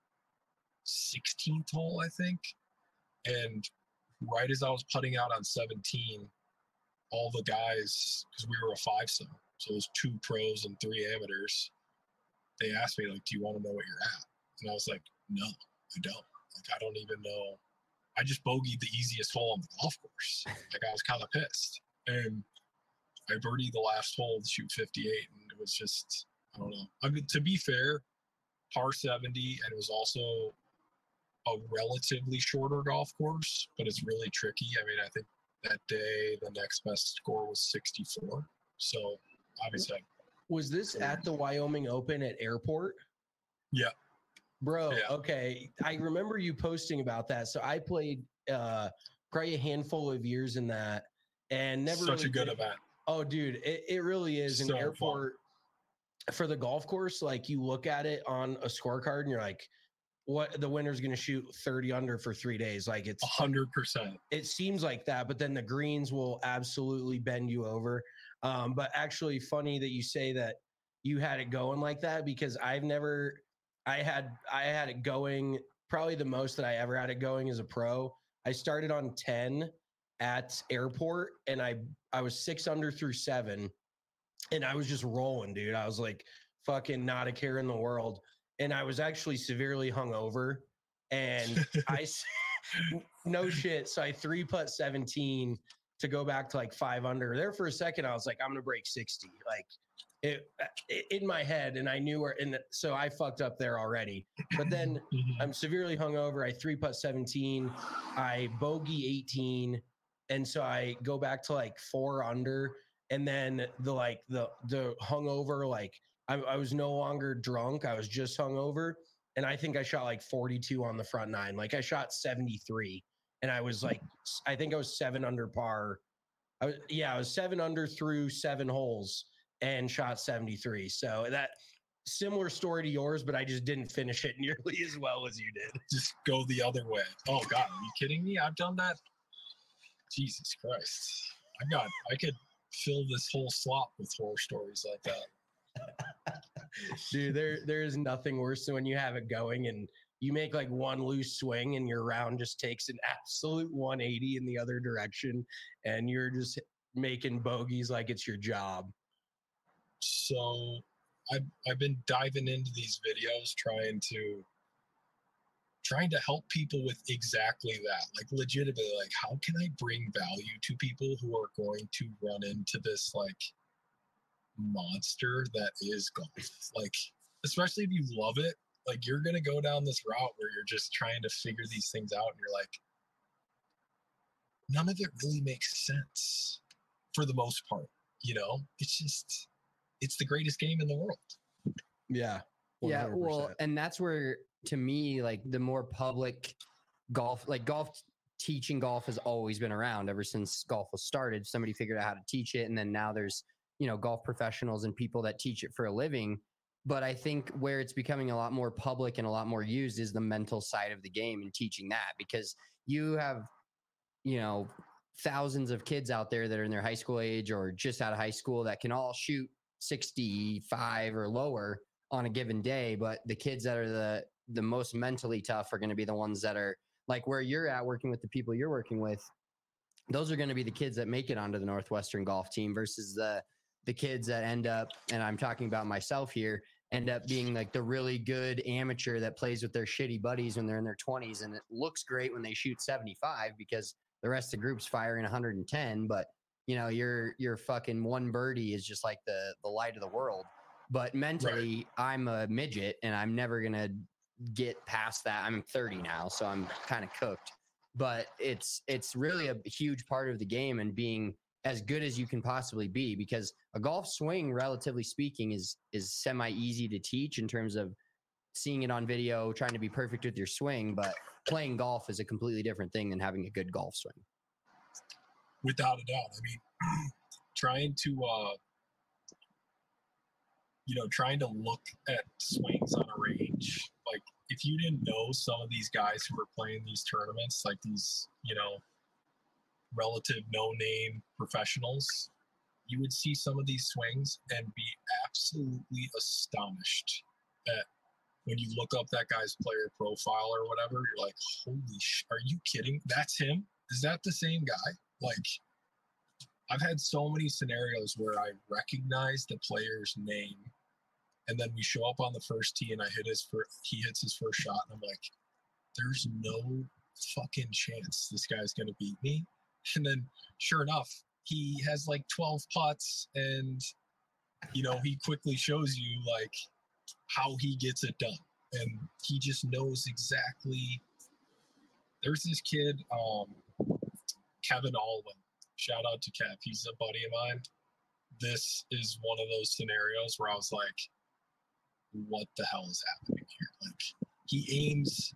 16th hole, I think. And right as I was putting out on 17, all the guys, because we were a 5-some, so there's 2 pros and 3 amateurs, they asked me, like, do you want to know what you're at? And I was like, no, I don't. Like, I don't even know. I just bogeyed the easiest hole on the golf course. Like, I was kind of pissed. And I birdied the last hole to shoot 58, and it was just, I don't know. I mean, to be fair, par 70, and it was also a relatively shorter golf course, but it's really tricky. I mean, I think that day the next best score was 64. So obviously, was this at the Wyoming Open at Airport? Yeah. Bro, yeah. Okay. I remember you posting about that. So I played probably a handful of years in that, and never such a good event. Oh, dude, it really is. An Airport fun. For the golf course, like, you look at it on a scorecard and you're like, what, the winner's going to shoot 30 under for 3 days. Like, it's 100%. It seems like that, but then the greens will absolutely bend you over. But actually funny that you say that you had it going like that, because I had it going probably the most that I ever had it going as a pro. I started on 10 at Airport, and I was 6 under through 7, and I was just rolling, dude. I was like, fucking not a care in the world. And I was actually severely hungover, and no shit. So I 3-putt 17 to go back to like 5 under. There for a second, I was like, I'm going to break 60. Like, it in my head, and I knew where, and so I fucked up there already. But then I'm severely hungover. I 3-putt 17, I bogey 18, and so I go back to like 4 under, And then the hungover, like I was no longer drunk. I was just hungover. And I think I shot like 42 on the front nine. Like I shot 73 and I was like, I think I was 7 under par. I was 7 under through 7 holes and shot 73. So that similar story to yours, but I just didn't finish it nearly as well as you did. Just go the other way. Oh God, are you kidding me? I've done that. Jesus Christ. I could fill this whole slot with horror stories like that. Dude, there is nothing worse than when you have it going and you make like one loose swing and your round just takes an absolute 180 in the other direction and you're just making bogeys like it's your job. So I've been diving into these videos trying to help people with exactly that. Like legitimately, like how can I bring value to people who are going to run into this like monster that is golf? Like, especially if you love it, like you're going to go down this route where you're just trying to figure these things out and you're like, none of it really makes sense for the most part. You know, it's the greatest game in the world. Yeah. 100%. Yeah. Well, and that's where, to me, like the more public golf teaching golf has always been around ever since golf was started. Somebody figured out how to teach it. And then now there's, golf professionals and people that teach it for a living. But I think where it's becoming a lot more public and a lot more used is the mental side of the game and teaching that, because you have, thousands of kids out there that are in their high school age or just out of high school that can all shoot 65 or lower on a given day. But the kids that are the most mentally tough are going to be the ones that are like where you're at working with the people you're working with. Those are going to be the kids that make it onto the Northwestern golf team versus the kids that end up, and I'm talking about myself here, end up being like the really good amateur that plays with their shitty buddies when they're in their 20s. And it looks great when they shoot 75 because the rest of the group's firing 110. But, your fucking one birdie is just like the light of the world. But mentally, right. I'm a midget and I'm never going to get past that. I'm 30 now, so I'm kind of cooked. But it's really a huge part of the game and being as good as you can possibly be, because a golf swing, relatively speaking, is semi easy to teach in terms of seeing it on video, trying to be perfect with your swing. But playing golf is a completely different thing than having a good golf swing. Without a doubt. I mean, trying to look at swings on a range, like if you didn't know some of these guys who were playing these tournaments, like these, relative no-name professionals, you would see some of these swings and be absolutely astonished at when you look up that guy's player profile or whatever, you're like, holy are you kidding? That's him? Is that the same guy? Like, I've had so many scenarios where I recognize the player's name and then we show up on the first tee and he hits his first shot and I'm like, there's no fucking chance this guy's going to beat me. And then sure enough, he has like 12 putts and, he quickly shows you like how he gets it done. And he just knows exactly. There's this kid, Kevin Alwyn. Shout out to Kev. He's a buddy of mine. This is one of those scenarios where I was like, what the hell is happening here? Like, he aims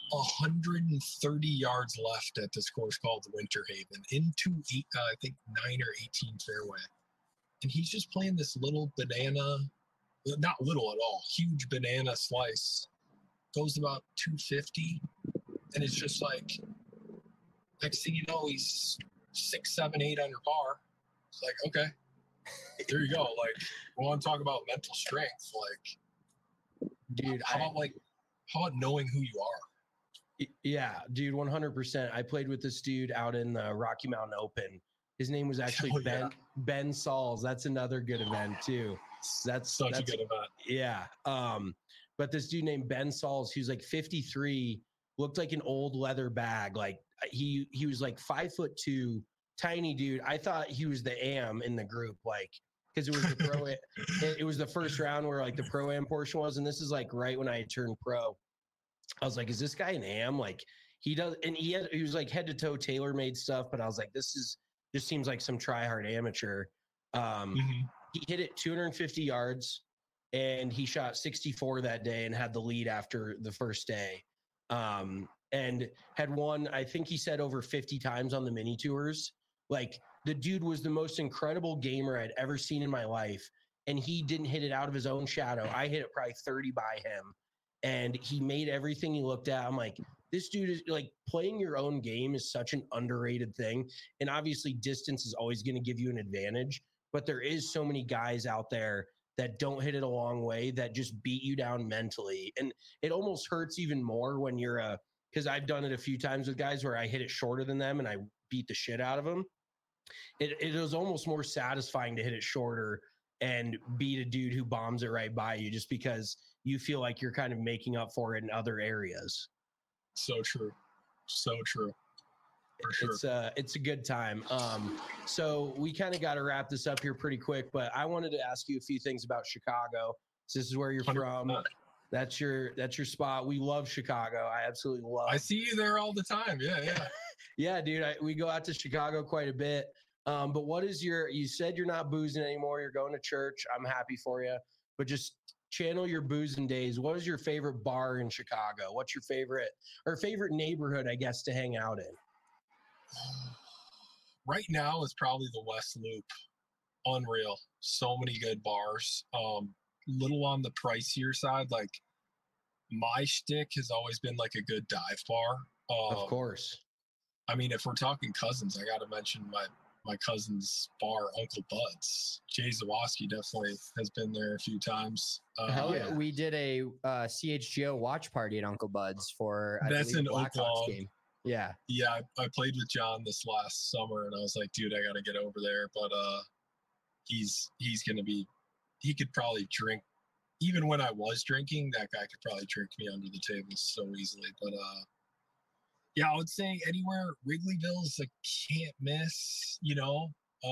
130 yards left at this course called Winter Haven into I think 9 or 18 fairway, and he's just playing this little banana, not little at all, huge banana slice, goes about 250, and it's just like next thing you know he's 6, 7, 8 under par. It's like, okay, there you go. Like, we want to talk about mental strength, like, dude, how about knowing who you are? Yeah, dude, 100%. I played with this dude out in the Rocky Mountain Open. His name was actually Ben Sauls. That's another good event too. That's a good event. Yeah. But this dude named Ben Sauls, he was like 53, looked like an old leather bag. Like he was like 5'2", tiny dude. I thought he was the AM in the group, like, because it was the pro. It was the first round where like the pro-am portion was, and this is like right when I had turned pro. I was like, is this guy an AM? Like he does, and he was like head to toe tailor-made stuff, but I was like, this just seems like some try-hard amateur. He hit it 250 yards, and he shot 64 that day and had the lead after the first day. And had won, I think he said, over 50 times on the mini tours. Like, the dude was the most incredible gamer I'd ever seen in my life. And he didn't hit it out of his own shadow. I hit it probably 30 by him. And he made everything he looked at. I'm like, this dude is like, playing your own game is such an underrated thing. And obviously distance is always going to give you an advantage, but there is so many guys out there that don't hit it a long way that just beat you down mentally. And it almost hurts even more when you're because I've done it a few times with guys where I hit it shorter than them and I beat the shit out of them. It was almost more satisfying to hit it shorter and beat a dude who bombs it right by you, just because you feel like you're kind of making up for it in other areas. So true. So true. For sure. It's a good time. So we kind of got to wrap this up here pretty quick, but I wanted to ask you a few things about Chicago. So this is where you're 100%. From. That's your spot. We love Chicago. I absolutely love. I see you there all the time. Yeah. Yeah, dude. We go out to Chicago quite a bit. But what is you said you're not boozing anymore. You're going to church. I'm happy for you, but just channel your boozing days. What is your favorite bar in Chicago? What's your favorite neighborhood, I guess, to hang out in? Right now is probably the West Loop. Unreal. So many good bars. Little on the pricier side. Like, my shtick has always been like a good dive bar. Of course. I mean, if we're talking cousins, I got to mention my cousin's bar, Uncle Bud's. Jay Zawoski definitely has been there a few times. Hell yeah. We did a CHGO watch party at Uncle Bud's for that's an Oklahoma game. Yeah. Yeah, I played with John this last summer, and I was like, dude, I got to get over there. But he's going to be – he could probably drink – even when I was drinking, that guy could probably drink me under the table so easily. But yeah, I would say anywhere. Wrigleyville is a can't miss, you know.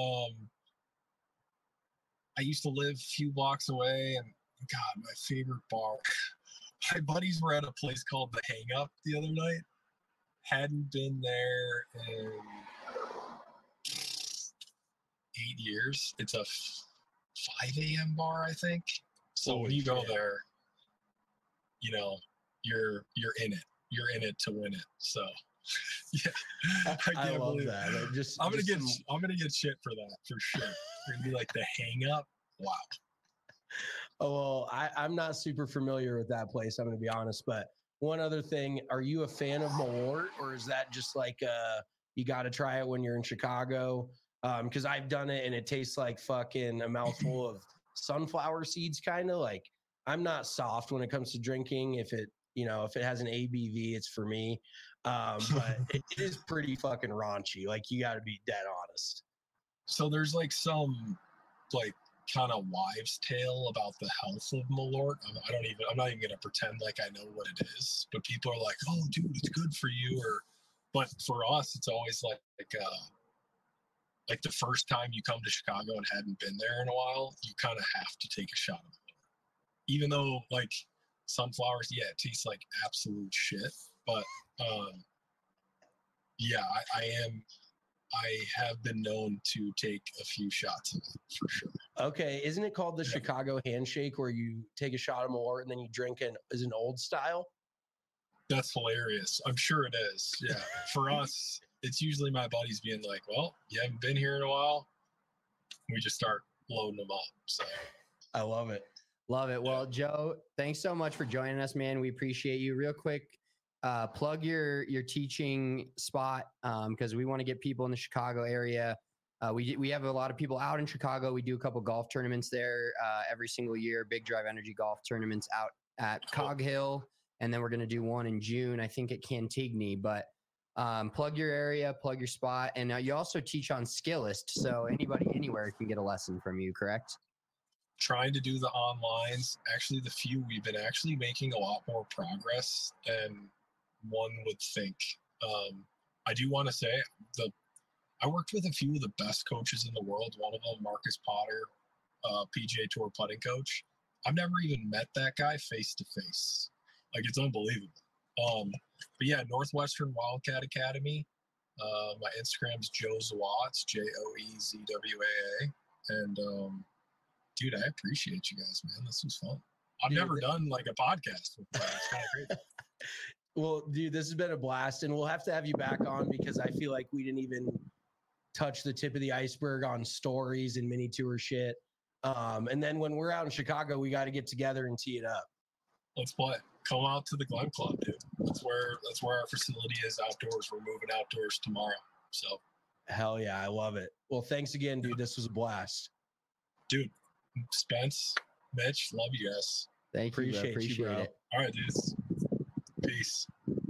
I used to live a few blocks away, and God, my favorite bar. My buddies were at a place called The Hang Up the other night. Hadn't been there in 8 years. It's a 5 a.m. bar, I think. So when you go there, you know, you're in it. You're in it to win it. So, yeah, I love that. I'm gonna get shit for that for sure. We're gonna be like The Hang Up. Wow. Oh well, I'm not super familiar with that place. I'm gonna be honest, but one other thing: are you a fan of Malort, or is that just like you got to try it when you're in Chicago? Because I've done it and it tastes like fucking a mouthful of sunflower seeds, kind of. Like, I'm not soft when it comes to drinking. If it has an ABV, it's for me. But it is pretty fucking raunchy. Like, you got to be dead honest. So there's like some like kind of wives' tale about the health of Malort. I'm not even gonna pretend like I know what it is. But people are like, "Oh, dude, it's good for you." But for us, it's always like the first time you come to Chicago and hadn't been there in a while, you kind of have to take a shot of it. Even though like sunflowers, yeah, it tastes like absolute shit. But yeah, I have been known to take a few shots of it for sure. Okay, isn't it called the Chicago handshake, where you take a shot of Malort and then you drink it as an old style? That's hilarious. I'm sure it is. Yeah. For us, it's usually my buddies being like, well, you haven't been here in a while. We just start loading them up. So I love it. Love it. Well, Joe, thanks so much for joining us, man. We appreciate you. Real quick, plug your teaching spot, because we want to get people in the Chicago area. We have a lot of people out in Chicago. We do a couple golf tournaments there every single year, Big Drive Energy golf tournaments out at Cog Hill. And then we're going to do one in June, I think, at Cantigny. But plug your area, plug your spot. And you also teach on Skillist. So anybody anywhere can get a lesson from you, correct? Trying to do the onlines. Actually, the few we've been actually making a lot more progress than one would think. I do want to say I worked with a few of the best coaches in the world. One of them, Marcus Potter, PGA Tour putting coach. I've never even met that guy face to face. Like, it's unbelievable. But yeah, Northwestern Wildcat Academy. My Instagram's Joe Zawatz, Joezwaa. And dude, I appreciate you guys, man. This was fun. I've never done like a podcast with guys. It's kind of crazy. Well, dude, this has been a blast, and we'll have to have you back on because I feel like we didn't even touch the tip of the iceberg on stories and mini tour shit. And then when we're out in Chicago, we got to get together and tee it up. Let's play. Come out to the Glen Club, dude. That's where our facility is outdoors. We're moving outdoors tomorrow. So hell yeah, I love it. Well, thanks again, dude. This was a blast. Dude, Spence, Mitch, love you guys. Thank you. Appreciate you, bro. All right, dudes. Peace.